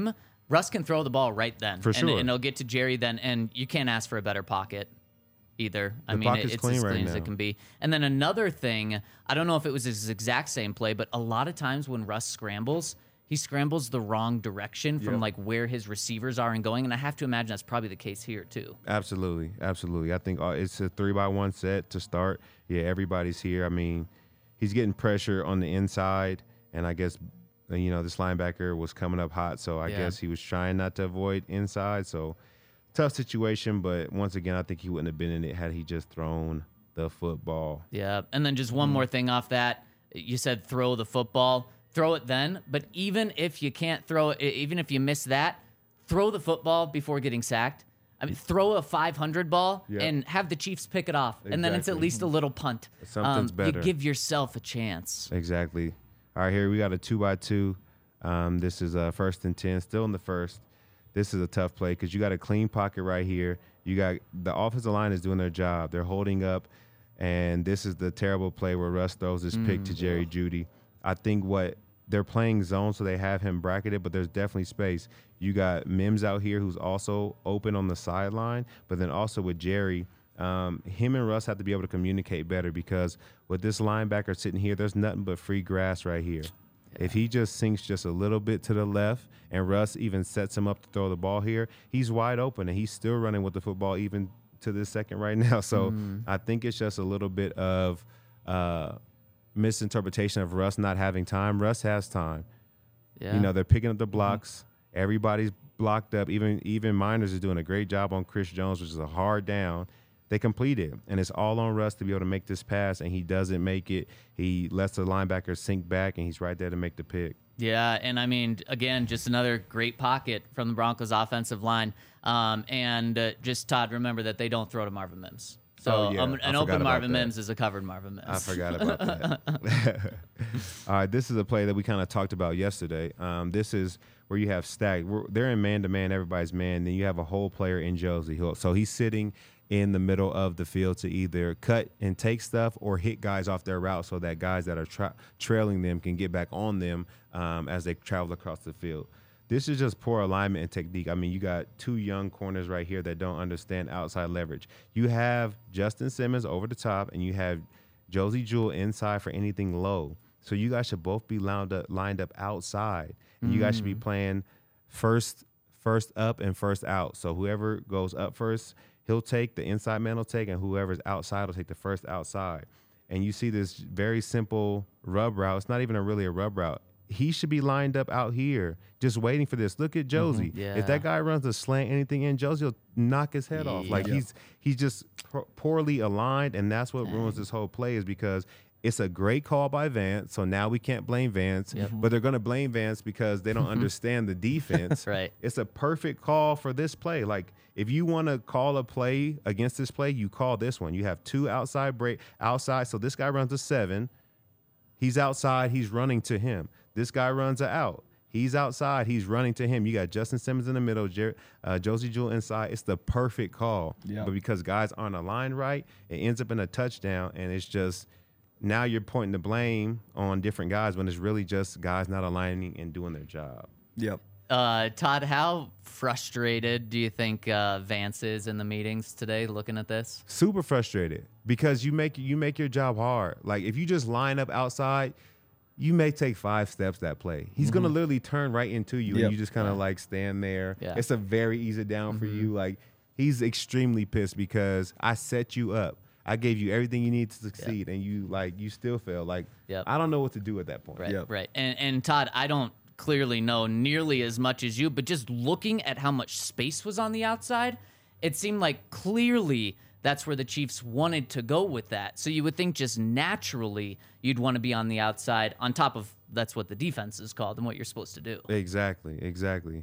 Russ can throw the ball right then. For and, sure. And it'll get to Jerry then, and you can't ask for a better pocket either. I The mean, pocket's it, it's clean as right clean as now. it can be. And then another thing, I don't know if it was his exact same play, but a lot of times when Russ scrambles, he scrambles the wrong direction from Yep. like where his receivers are and going. And I have to imagine that's probably the case here too. Absolutely, absolutely. I think uh, it's a three by one set to start. Yeah, everybody's here. I mean, he's getting pressure on the inside, and I guess uh, you know this linebacker was coming up hot, so I Yeah. guess he was trying not to avoid inside. So tough situation, but once again, I think he wouldn't have been in it had he just thrown the football. Yeah. And then just one more thing off that. You said throw the football. Throw it then. But even if you can't throw it, even if you miss that, throw the football before getting sacked. I mean, throw a five hundred ball Yep. and have the Chiefs pick it off. And then it's at Exactly. least a little punt. Something's Um, better. You give yourself a chance. Exactly. All right, here we got a two by two. Um, this is a first and ten, still in the first. This is a tough play because you got a clean pocket right here. You got the offensive line is doing their job. They're holding up, and this is the terrible play where Russ throws this pick to Jerry Jeudy. I think what they're playing zone, so they have him bracketed, but there's definitely space. You got Mims out here who's also open on the sideline, but then also with Jerry, um, him and Russ have to be able to communicate better because with this linebacker sitting here, there's nothing but free grass right here. If he just sinks just a little bit to the left and Russ even sets him up to throw the ball here, he's wide open and he's still running with the football even to this second right now. So I think it's just a little bit of uh, misinterpretation of Russ not having time. Russ has time. Yeah. You know, they're picking up the blocks. Everybody's blocked up. Even even Miners is doing a great job on Chris Jones, which is a hard down. They complete it, and it's all on Russ to be able to make this pass, and he doesn't make it. He lets the linebacker sink back, and he's right there to make the pick. Yeah, and I mean, again, just another great pocket from the Broncos offensive line. Um, and uh, just, Todd, remember that they don't throw to Marvin Mims. So Oh, yeah. um, I an forgot open about Marvin that. Mims is a covered Marvin Mims. I forgot about that. All right, this is a play that we kind of talked about yesterday. Um, this is where you have stacked. We're, they're in man-to-man, everybody's man. Then you have a whole player in Josie. He'll- So he's sitting in the middle of the field to either cut and take stuff or hit guys off their route so that guys that are tra- trailing them can get back on them um, as they travel across the field. This is just poor alignment and technique. I mean, you got two young corners right here that don't understand outside leverage. You have Justin Simmons over the top, and you have Josie Jewell inside for anything low. So you guys should both be lined up, lined up outside. And you guys should be playing first, first up and first out. So whoever goes up first, he'll take, the inside man will take, and whoever's outside will take the first outside. And you see this very simple rub route. It's not even a really a rub route. He should be lined up out here just waiting for this. Look at Josie. Yeah. If that guy runs a slant, anything in, Josie will knock his head off. Like Yeah. he's he's just po- poorly aligned, and that's what ruins this whole play is because it's a great call by Vance. So now we can't blame Vance, Yep. but they're going to blame Vance because they don't understand the defense. Right. It's a perfect call for this play. Like if you want to call a play against this play, you call this one. You have two outside break outside. So this guy runs a seven. He's outside. He's running to him. This guy runs a out. He's outside. He's running to him. You got Justin Simmons in the middle, Jer- uh, Josie Jewell inside. It's the perfect call. Yeah. But because guys aren't aligned right, it ends up in a touchdown, and it's just now you're pointing the blame on different guys when it's really just guys not aligning and doing their job. Yep. Uh, Todd, how frustrated do you think uh, Vance is in the meetings today looking at this? Super frustrated because you make you make your job hard. Like if you just line up outside, you may take five steps that play. He's gonna literally turn right into you, Yep. and you just kind of like stand there. Yeah. It's a very easy down for you. Like he's extremely pissed because I set you up. I gave you everything you need to succeed, and you like you still fail. Like Yep. I don't know what to do at that point. Right, Yep. right. And, and Todd, I don't clearly know nearly as much as you, but just looking at how much space was on the outside, it seemed like clearly that's where the Chiefs wanted to go with that. So you would think just naturally you'd want to be on the outside on top of that's what the defense is called and what you're supposed to do. Exactly. Exactly.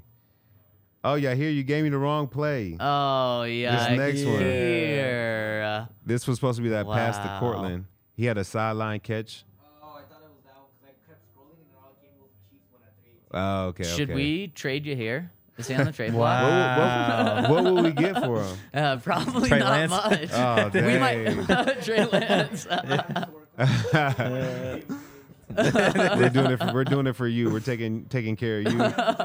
Oh yeah, here you gave me the wrong play. Oh, yeah. This next one. Here. This was supposed to be that pass to Wow. Cortland. He had a sideline catch. Oh, I thought it was that one because I kept scrolling and it all came with the Chiefs one at three. Oh, okay. Should okay. we trade you here? Is he on the trade Wow. block? What, what, what will we get for him? Uh, probably Trey not Lance? much. Oh, we dang. might Trey Lance. we're doing it. For, we're doing it for you. We're taking taking care of you.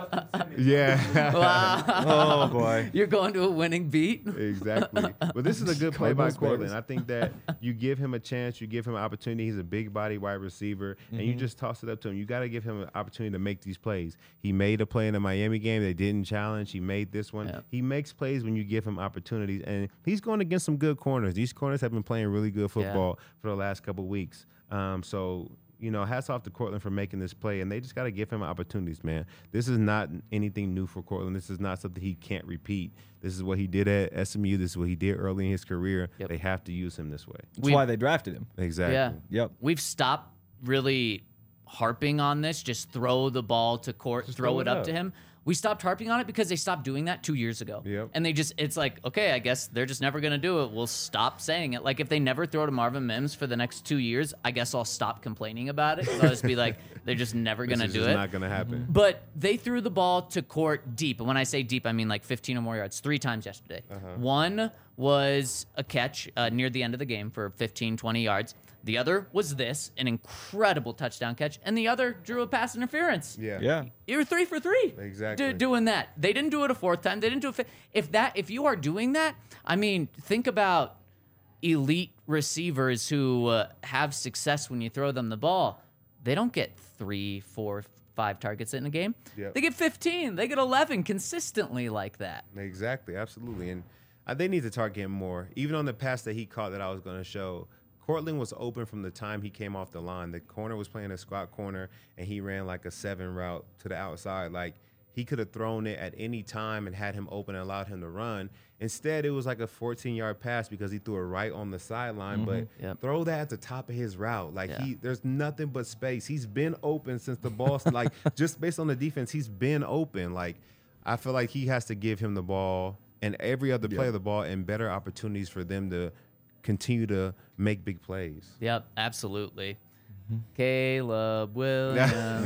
Yeah. Wow. Oh boy. You're going to a winning beat. Exactly. But this is a good play by Cardinals Cortland. Bears. I think that you give him a chance, you give him an opportunity. He's a big body wide receiver, and Mm-hmm. you just toss it up to him. You got to give him an opportunity to make these plays. He made a play in the Miami game. They didn't challenge. He made this one. Yeah. He makes plays when you give him opportunities, and he's going against some good corners. These corners have been playing really good football for the last couple weeks. Um, so, you know, hats off to Cortland for making this play, and they just got to give him opportunities, man. This is not anything new for Cortland. This is not something he can't repeat. This is what he did at S M U. This is what he did early in his career. Yep. They have to use him this way. That's We- why they drafted him. Exactly. Yeah. Yep. We've stopped really harping on this. Just throw the ball to court, throw throw it it up, up. to him. We stopped harping on it because they stopped doing that two years ago. Yep. And they just, it's like, okay, I guess they're just never going to do it. We'll stop saying it. Like if they never throw to Marvin Mims for the next two years, I guess I'll stop complaining about it. I'll just be like, they're just never going to This do is it. just not going to happen. But they threw the ball to court deep. And when I say deep, I mean like fifteen or more yards, three times yesterday. One was a catch uh, near the end of the game for fifteen, twenty yards. The other was this, an incredible touchdown catch. And the other drew a pass interference. Yeah. Yeah. You're three for three. Exactly. Do, doing that. They didn't do it a fourth time. They didn't do it. Fi- if that, if you are doing that, I mean, think about elite receivers who uh, have success when you throw them the ball. They don't get three, four, five targets in a game. Yep. They get fifteen. They get eleven consistently like that. Exactly, absolutely. And uh, they need to target him more. Even on the pass that he caught that I was going to show, Cortland was open from the time he came off the line. The corner was playing a squat corner, and he ran like a seven route to the outside. Like, he could have thrown it at any time and had him open and allowed him to run. Instead, it was like a fourteen-yard pass because he threw it right on the sideline. But Yep. throw that at the top of his route. Like, Yeah. he, there's nothing but space. He's been open since the ball, like, just based on the defense, he's been open. Like, I feel like he has to give him the ball and every other player the ball and better opportunities for them to continue to make big plays. Yep, absolutely. Caleb Williams. um,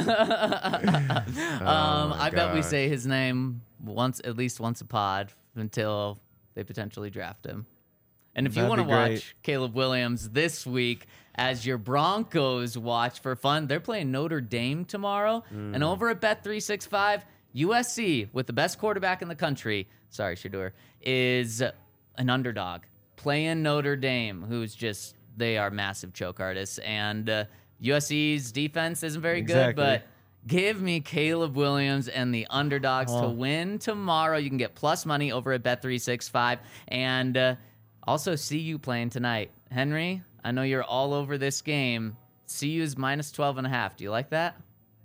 Oh, I bet we gosh. say his name once, at least once a pod, until they potentially draft him. And if you That'd want to be great. watch Caleb Williams this week as your Broncos watch for fun, they're playing Notre Dame tomorrow. And over at Bet three sixty-five, U S C, with the best quarterback in the country, sorry, Shadur, is an underdog playing Notre Dame, who's just, they are massive choke artists. And uh, U S C's defense isn't very good, Exactly. but give me Caleb Williams and the underdogs to Oh. win tomorrow. You can get plus money over at Bet three sixty-five. And uh, also C U playing tonight. Henry, I know you're all over this game. C U's minus twelve and a half. Do you like that?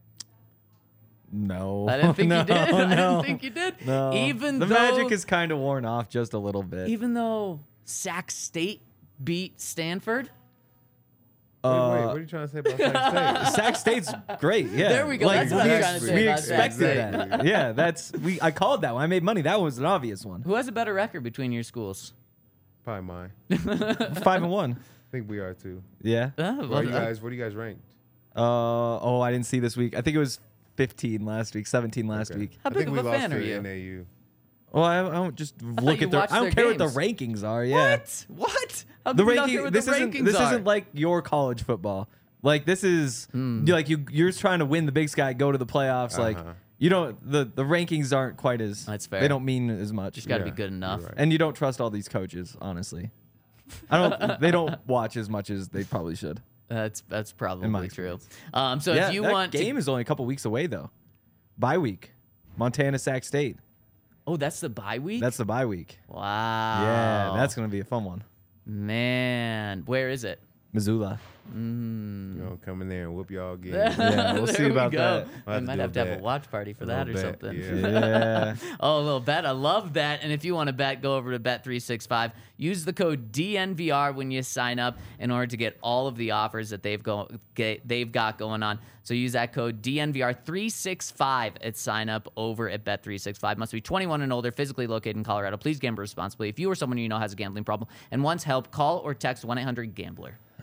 No. I didn't think no, you did. I No. didn't think you did. No. Even the though, magic is kind of worn off just a little bit. even though Sac State beat Stanford. Wait, wait, Uh, what are you trying to say about Sac State? Sac State's great. Yeah. There we go. That's what we, I'm trying to say we about Sac expected State. that. Yeah, that's we. I called that one. I made money. That was an obvious one. Who has a better record between your schools? Probably mine. Five and one. I think we are too. Yeah. Uh, Where well, are you uh, guys? Where do you guys ranked? Uh oh, I didn't see this week. I think it was fifteen last week, seventeen last Okay. week. How I big think of we a lost fan to are the you? N A U. Well, I, I don't just look you at their. watched I don't their care what games. the rankings are. Yeah. What? What? How The come you don't care ranking. what This the isn't. rankings This are? isn't like your college football. Like this is Hmm. you like you. You're trying to win the Big Sky, go to the playoffs. Like Uh-huh. you don't. The the rankings aren't quite as. That's fair. They don't mean as much. Just got to Yeah, be good you're enough. right. And you don't trust all these coaches, honestly. I don't. They don't watch as much as they probably should. That's that's my probably true. experience. Um, so yeah, if you that want game to, is only a couple weeks away though. Bye week, Montana Sac State. oh, that's the bye week. That's the bye week. wow. Yeah, that's gonna be a fun one. man. Where is it? Missoula. You know, come in there and whoop y'all again. Yeah, we'll There see we about go. that. We I'll have to might do a have to have a bet. watch party for A that or little bet, something. yeah. Yeah. Oh, a little bet. I love that. And if you want to bet, go over to Bet three sixty-five. Use the code D N V R when you sign up in order to get all of the offers that they've go get, they've got going on. So use that code D N V R three sixty-five at sign up over at Bet three sixty-five. Must be twenty-one and older, physically located in Colorado. Please gamble responsibly. If you or someone you know has a gambling problem and wants help, call or text one eight hundred gambler.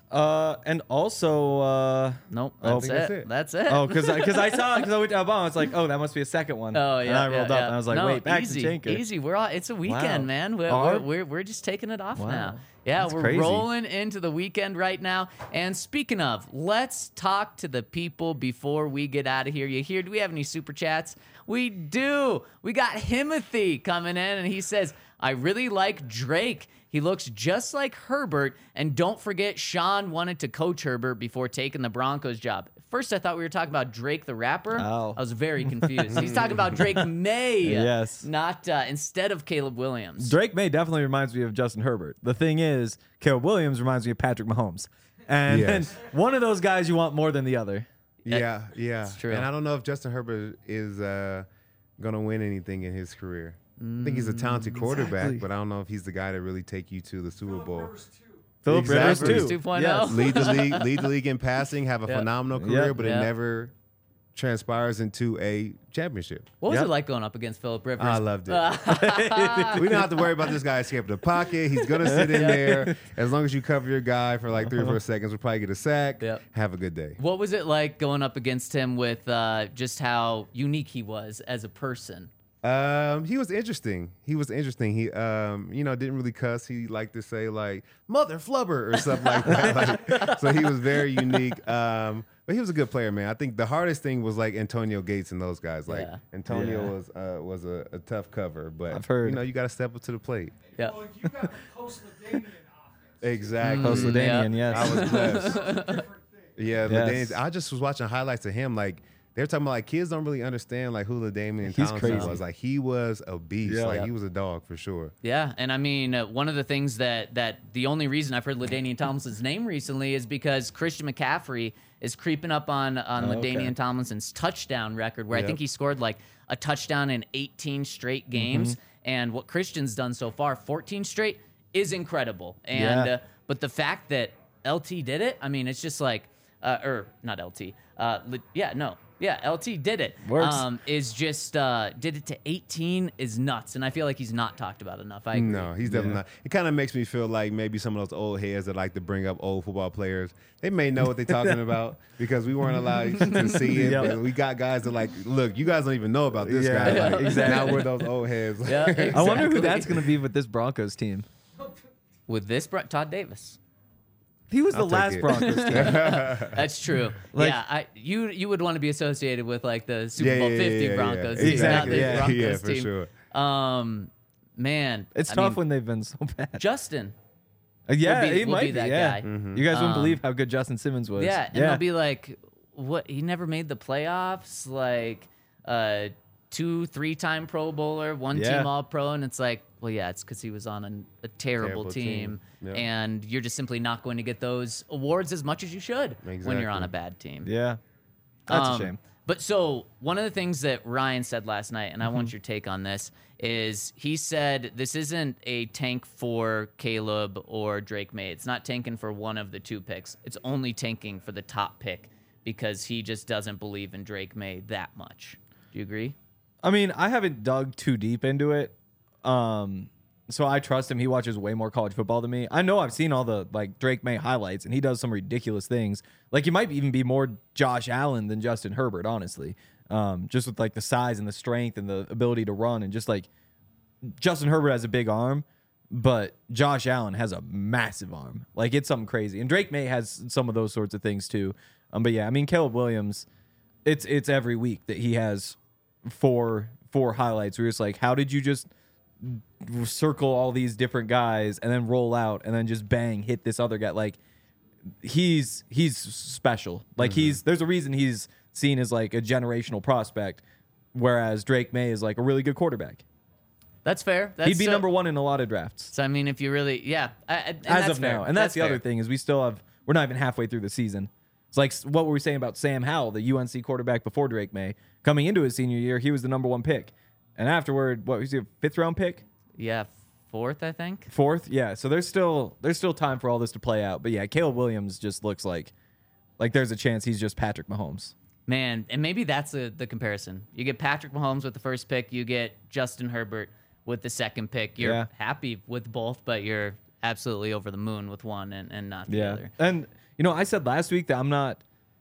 Uh, and also, uh, Nope, Oh, that's, I it. think that's it. oh, because because I saw because I went down bottom, I was like, oh, that must be a second one. Oh yeah, And I yeah, rolled yeah. up and I was like, no, wait, back easy, to Chinker. easy. We're all. It's a weekend, Wow. man. We're, Are- we're, we're we're just taking it off Wow. now. Yeah, That's we're crazy. rolling into the weekend right now. And speaking of, let's talk to the people before we get out of here. You hear? Do we have any super chats? We do. We got Himothy coming in, and he says, "I really like Drake. He looks just like Herbert. And don't forget, Sean wanted to coach Herbert before taking the Broncos job." First, I thought we were talking about Drake the rapper. Oh. I was very confused. He's talking about Drake May. Yes. Not uh, instead of Caleb Williams. Drake May definitely reminds me of Justin Herbert. The thing is, Caleb Williams reminds me of Patrick Mahomes. And, Yes. and one of those guys you want more than the other. Yeah, yeah. true. And I don't know if Justin Herbert is uh, going to win anything in his career. I think he's a talented quarterback, Exactly. but I don't know if he's the guy to really take you to the Super Bowl. Philip Exactly. Rivers, too. two point Yes. oh. Lead the league, lead the league in passing, have a Yeah. phenomenal career, Yeah. but Yeah. it never transpires into a championship. What was Yep. it like going up against Philip Rivers? I loved it. We don't have to worry about this guy escaping the pocket. He's gonna sit in there. As long as you cover your guy for like three or four seconds, we'll probably get a sack. Yep. Have a good day. What was it like going up against him with uh, just how unique he was as a person? Um, he was interesting. He was interesting. He, um, you know, didn't really cuss. He liked to say like "mother flubber" or something like that. Like, so he was very unique. Um, but he was a good player, man. I think the hardest thing was like Antonio Gates and those guys. Like Yeah. Antonio Yeah. was uh, was a, a tough cover, but I've heard. you know, you got to step up to the plate. Yeah. Well, you got the post-Ladanian offense. Exactly. Post Ladanian, yeah. I yes. was blessed. Different thing. Yeah, Yes. LaDainian, I just was watching highlights of him. Like they're talking about like kids don't really understand like who LaDainian He's Tomlinson crazy. was. Like he was a beast. Yeah. Like Yep. he was a dog for sure. Yeah, and I mean, uh, one of the things that that the only reason I've heard LaDainian Tomlinson's name recently is because Christian McCaffrey is creeping up on on Oh, LaDainian okay. Tomlinson's touchdown record, where I Yep. think he scored like a touchdown in eighteen straight games. Mm-hmm. And what Christian's done so far, fourteen straight, is incredible. And Yeah. uh, but the fact that L T did it, I mean, it's just like, uh, or not L T, uh, li- yeah, no. Yeah, L T did it. Works. Um, is just uh, did it to eighteen is nuts, and I feel like he's not talked about enough. I agree. No, he's definitely not. It kind of makes me feel like maybe some of those old heads that like to bring up old football players, they may know what they're talking about because we weren't allowed to see it. Yep. But we got guys that like, look, you guys don't even know about this Yeah, guy. yeah, Like, exactly. Now we're those old heads. Yeah, I wonder who exactly. that's going to be with this Broncos team. With this, Bro- Todd Davis. He was the I'll take last it. Broncos team. That's true. Like- yeah, I, you you would want to be associated with like the Super Yeah, Bowl yeah, fifty yeah, yeah, Broncos, yeah. team, Exactly, not the yeah. Broncos Yeah, for team. sure. Um, man, It's I tough mean, when they've been so bad. Justin. Uh, yeah, be- he would might be be. that yeah. guy. You guys wouldn't Um, believe how good Justin Simmons was. Yeah, and yeah. they'll be like, what? He never made the playoffs. Like, uh, two, three-time Pro Bowler, one Yeah. team All-Pro, and it's like, well, yeah, it's because he was on an, a terrible, Terrible team, team. Yeah. and you're just simply not going to get those awards as much as you should when you're on Exactly. a bad team. yeah. That's Um, a shame. But so one of the things that Ryan said last night, and I Mm-hmm. want your take on this, is he said this isn't a tank for Caleb or Drake May. It's not tanking for one of the two picks. It's only tanking for the top pick because he just doesn't believe in Drake May that much. Do you agree? I mean, I haven't dug too deep into it. Um, so I trust him. He watches way more college football than me. I know I've seen all the like Drake May highlights, and he does some ridiculous things. Like he might even be more Josh Allen than Justin Herbert, honestly. Um, just with like the size and the strength and the ability to run, and just like Justin Herbert has a big arm, but Josh Allen has a massive arm. Like it's something crazy. And Drake May has some of those sorts of things too. Um, but yeah, I mean Caleb Williams, it's it's every week that he has four four highlights where it's like, how did you just circle all these different guys and then roll out and then just bang hit this other guy? Like he's he's special. Like he's there's a reason he's seen as like a generational prospect, whereas Drake May is like a really good quarterback. That's fair. That's He'd be so- number one in a lot of drafts So I mean, if you really, yeah, I, I- and as that's of fair. now. And that's, the fair. other thing is we still have we're not even halfway through the season. It's like what were we saying about Sam Howell, the U N C quarterback before Drake May, coming into his senior year, he was the number one pick, and afterward, what was he, a fifth round pick, Yeah, fourth, I think. fourth? Yeah. So there's still there's still time for all this to play out. But yeah, Caleb Williams just looks like like there's a chance he's just Patrick Mahomes. Man, and maybe that's the, the comparison. You get Patrick Mahomes with the first pick, you get Justin Herbert with the second pick. You're Yeah. happy with both, but you're absolutely over the moon with one and, and not the Yeah. other. And you know, I said last week that I'm not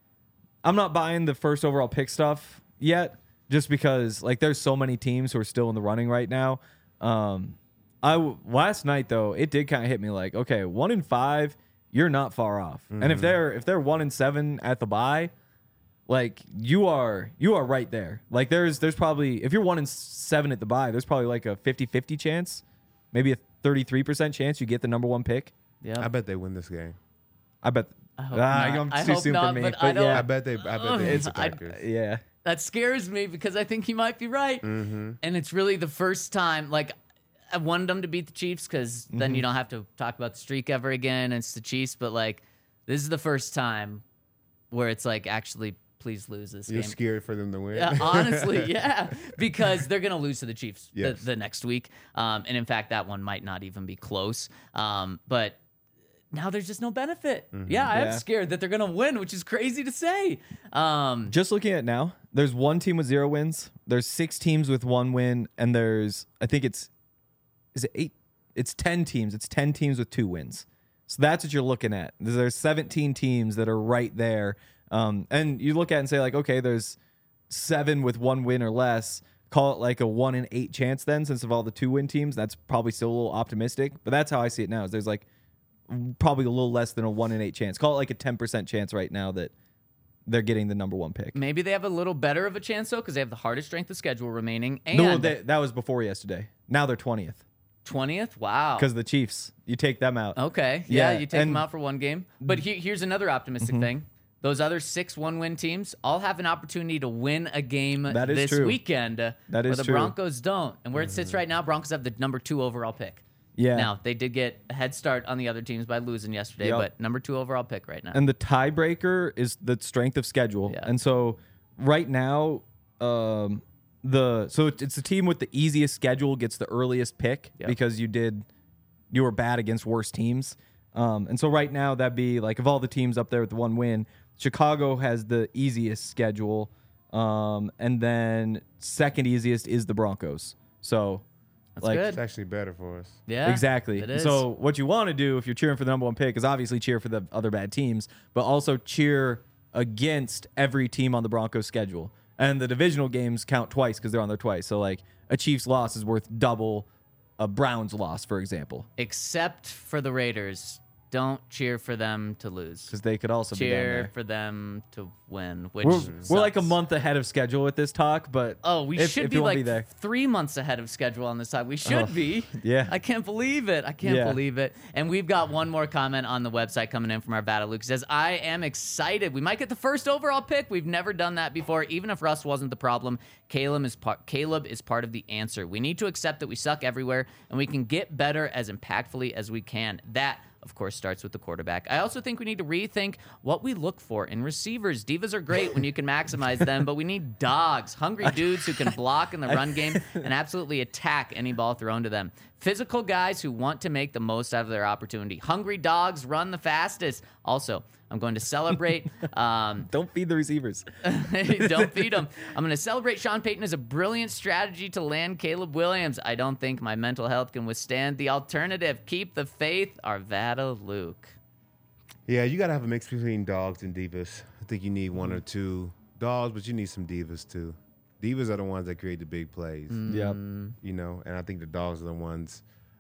I'm not buying the first overall pick stuff yet, just because like there's so many teams who are still in the running right now. Um I w- last night though, it did kind of hit me like, okay, one in five, you're not far off. Mm-hmm. And if they're if they're one in seven at the bye, like you are you are right there. Like there's there's probably if you're one in seven at the bye, there's probably like a fifty-fifty chance, maybe a thirty-three percent chance you get the number one pick. Yeah. I bet they win this game. I bet. I hope ah, not. I'm I too hope soon not, for me. but But, I don't- yeah, I bet they. I bet they. Ugh, It's the I- Packers. yeah. That scares me because I think he might be right. Mm-hmm. And it's really the first time, like, I wanted them to beat the Chiefs because then Mm-hmm. you don't have to talk about the streak ever again. It's the Chiefs, but, like, this is the first time where it's like, actually, please lose this You're game. scared for them to win. Yeah, honestly, yeah, because they're gonna lose to the Chiefs Yes. the, the next week, um, and in fact, that one might not even be close. Um, but now there's just no benefit. Yeah, I am Yeah. scared that they're gonna win, which is crazy to say. Um, Just looking at it now, there's one team with zero wins. There's six teams with one win, and there's I think it's is it eight? It's ten teams. It's ten teams with two wins. So that's what you're looking at. There's seventeen teams that are right there. Um, and you look at it and say like, okay, there's seven with one win or less. Call it like a one in eight chance then, since of all the two win teams. That's probably still a little optimistic, but that's how I see it now. Is there's like probably a little less than a one in eight chance. Call it like a ten percent chance right now that they're getting the number one pick. maybe they have a little better of a chance though, because they have the hardest strength of schedule remaining. And No, they, that was before yesterday. Now they're twentieth twentieth. Wow. because the Chiefs. You take them out. Okay. Yeah, Yeah, you take them and- out for one game. But he, here's another optimistic Mm-hmm. thing. Those other six one-win teams all have an opportunity to win a game That is this true. weekend. uh, That where is the true. Broncos don't. And where it sits right now, Broncos have the number two overall pick. Yeah. Now, they did get a head start on the other teams by losing yesterday, Yep. but number two overall pick right now. And the tiebreaker is the strength of schedule. Yeah. And so right now, um, the so it's it's the team with the easiest schedule gets the earliest pick Yep. because you did you were bad against worse teams. Um, and so right now that'd be like of all the teams up there with the one win, Chicago has the easiest schedule. Um, and then second easiest is the Broncos. So That's like good. It's actually better for us. Yeah. exactly. It is. So what you want to do if you're cheering for the number one pick is obviously cheer for the other bad teams, but also cheer against every team on the Broncos schedule. And the divisional games count twice because they're on there twice. So like a Chiefs loss is worth double a Browns loss, for example, Except for the Raiders. Don't cheer for them to lose. because they could also be down Cheer there. for them to win, which We're, we're like a sucks. month ahead of schedule with this talk, but Oh, we if- should if be you won't like there. three months ahead of schedule on this side. We should Oh, be. yeah. I can't believe it. I can't Yeah. believe it. And we've got one more comment on the website coming in from our Vata Luke. It says, I am excited. We might get the first overall pick. We've never done that before. Even if Russ wasn't the problem, Caleb is part Caleb is part of the answer. We need to accept that we suck everywhere and we can get better as impactfully as we can. That of course, starts with the quarterback. I also think we need to rethink what we look for in receivers. Divas are great when you can maximize them, but we need dogs, hungry dudes who can block in the run game and absolutely attack any ball thrown to them. Physical guys who want to make the most out of their opportunity. Hungry dogs run the fastest. Also, I'm going to celebrate. Um, Don't feed the receivers. don't feed them. I'm going to celebrate Sean Payton as a brilliant strategy to land Caleb Williams. I don't think my mental health can withstand the alternative. Keep the faith, Arvada Luke. Yeah, you got to have a mix between dogs and divas. I think you need one or two dogs, but you need some divas too. Divas are the ones that create the big plays, Yep. you know, and I think the dogs are the ones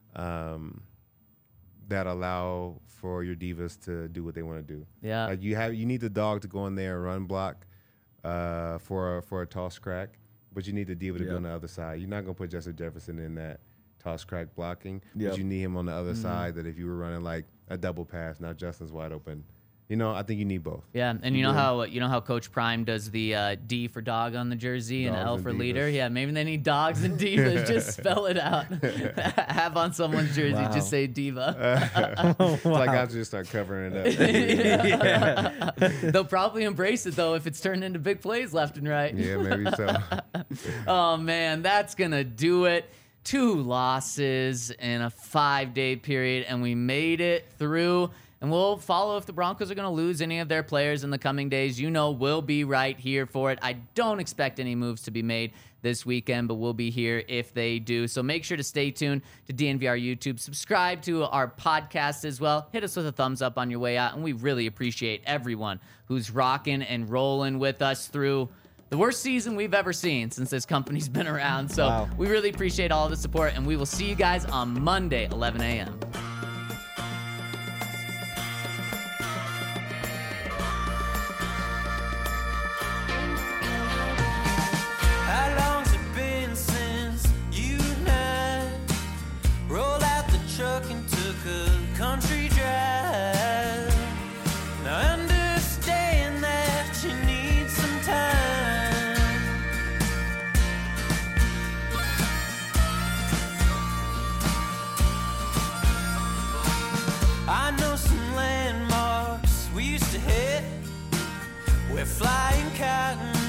um, that allow for your divas to do what they want to do. Yeah. Like you have, you need the dog to go in there and run block uh, for a, for a toss crack, but you need the diva to Yeah. go on the other side. You're not gonna put Justin Jefferson in that toss crack blocking, Yep. but you need him on the other Mm-hmm. side. That if you were running like a double pass, now Justin's wide open. You know, I think you need both. Yeah, and you know how you know how Coach Prime does the uh, D for dog on the jersey and Dogs L and for leader. divas. Yeah, maybe they need dogs and divas. Just spell it out. Have on someone's jersey, Wow. just say diva. It's like I'll just start covering it up. yeah. They'll probably embrace it though if it's turned into big plays left and right. Yeah, maybe so. Oh man, that's gonna do it. Two losses in a five-day period, and we made it through. And we'll follow if the Broncos are going to lose any of their players in the coming days. You know, we'll be right here for it. I don't expect any moves to be made this weekend, but we'll be here if they do. So make sure to stay tuned to D N V R YouTube. Subscribe to our podcast as well. Hit us with a thumbs up on your way out, and we really appreciate everyone who's rocking and rolling with us through the worst season we've ever seen since this company's been around. So Wow. we really appreciate all the support, and we will see you guys on Monday, eleven a.m. How long's it been since you and I rolled out the truck and took a country drive? Now I understand that you need some time. I know some landmarks we used to hit where flying cotton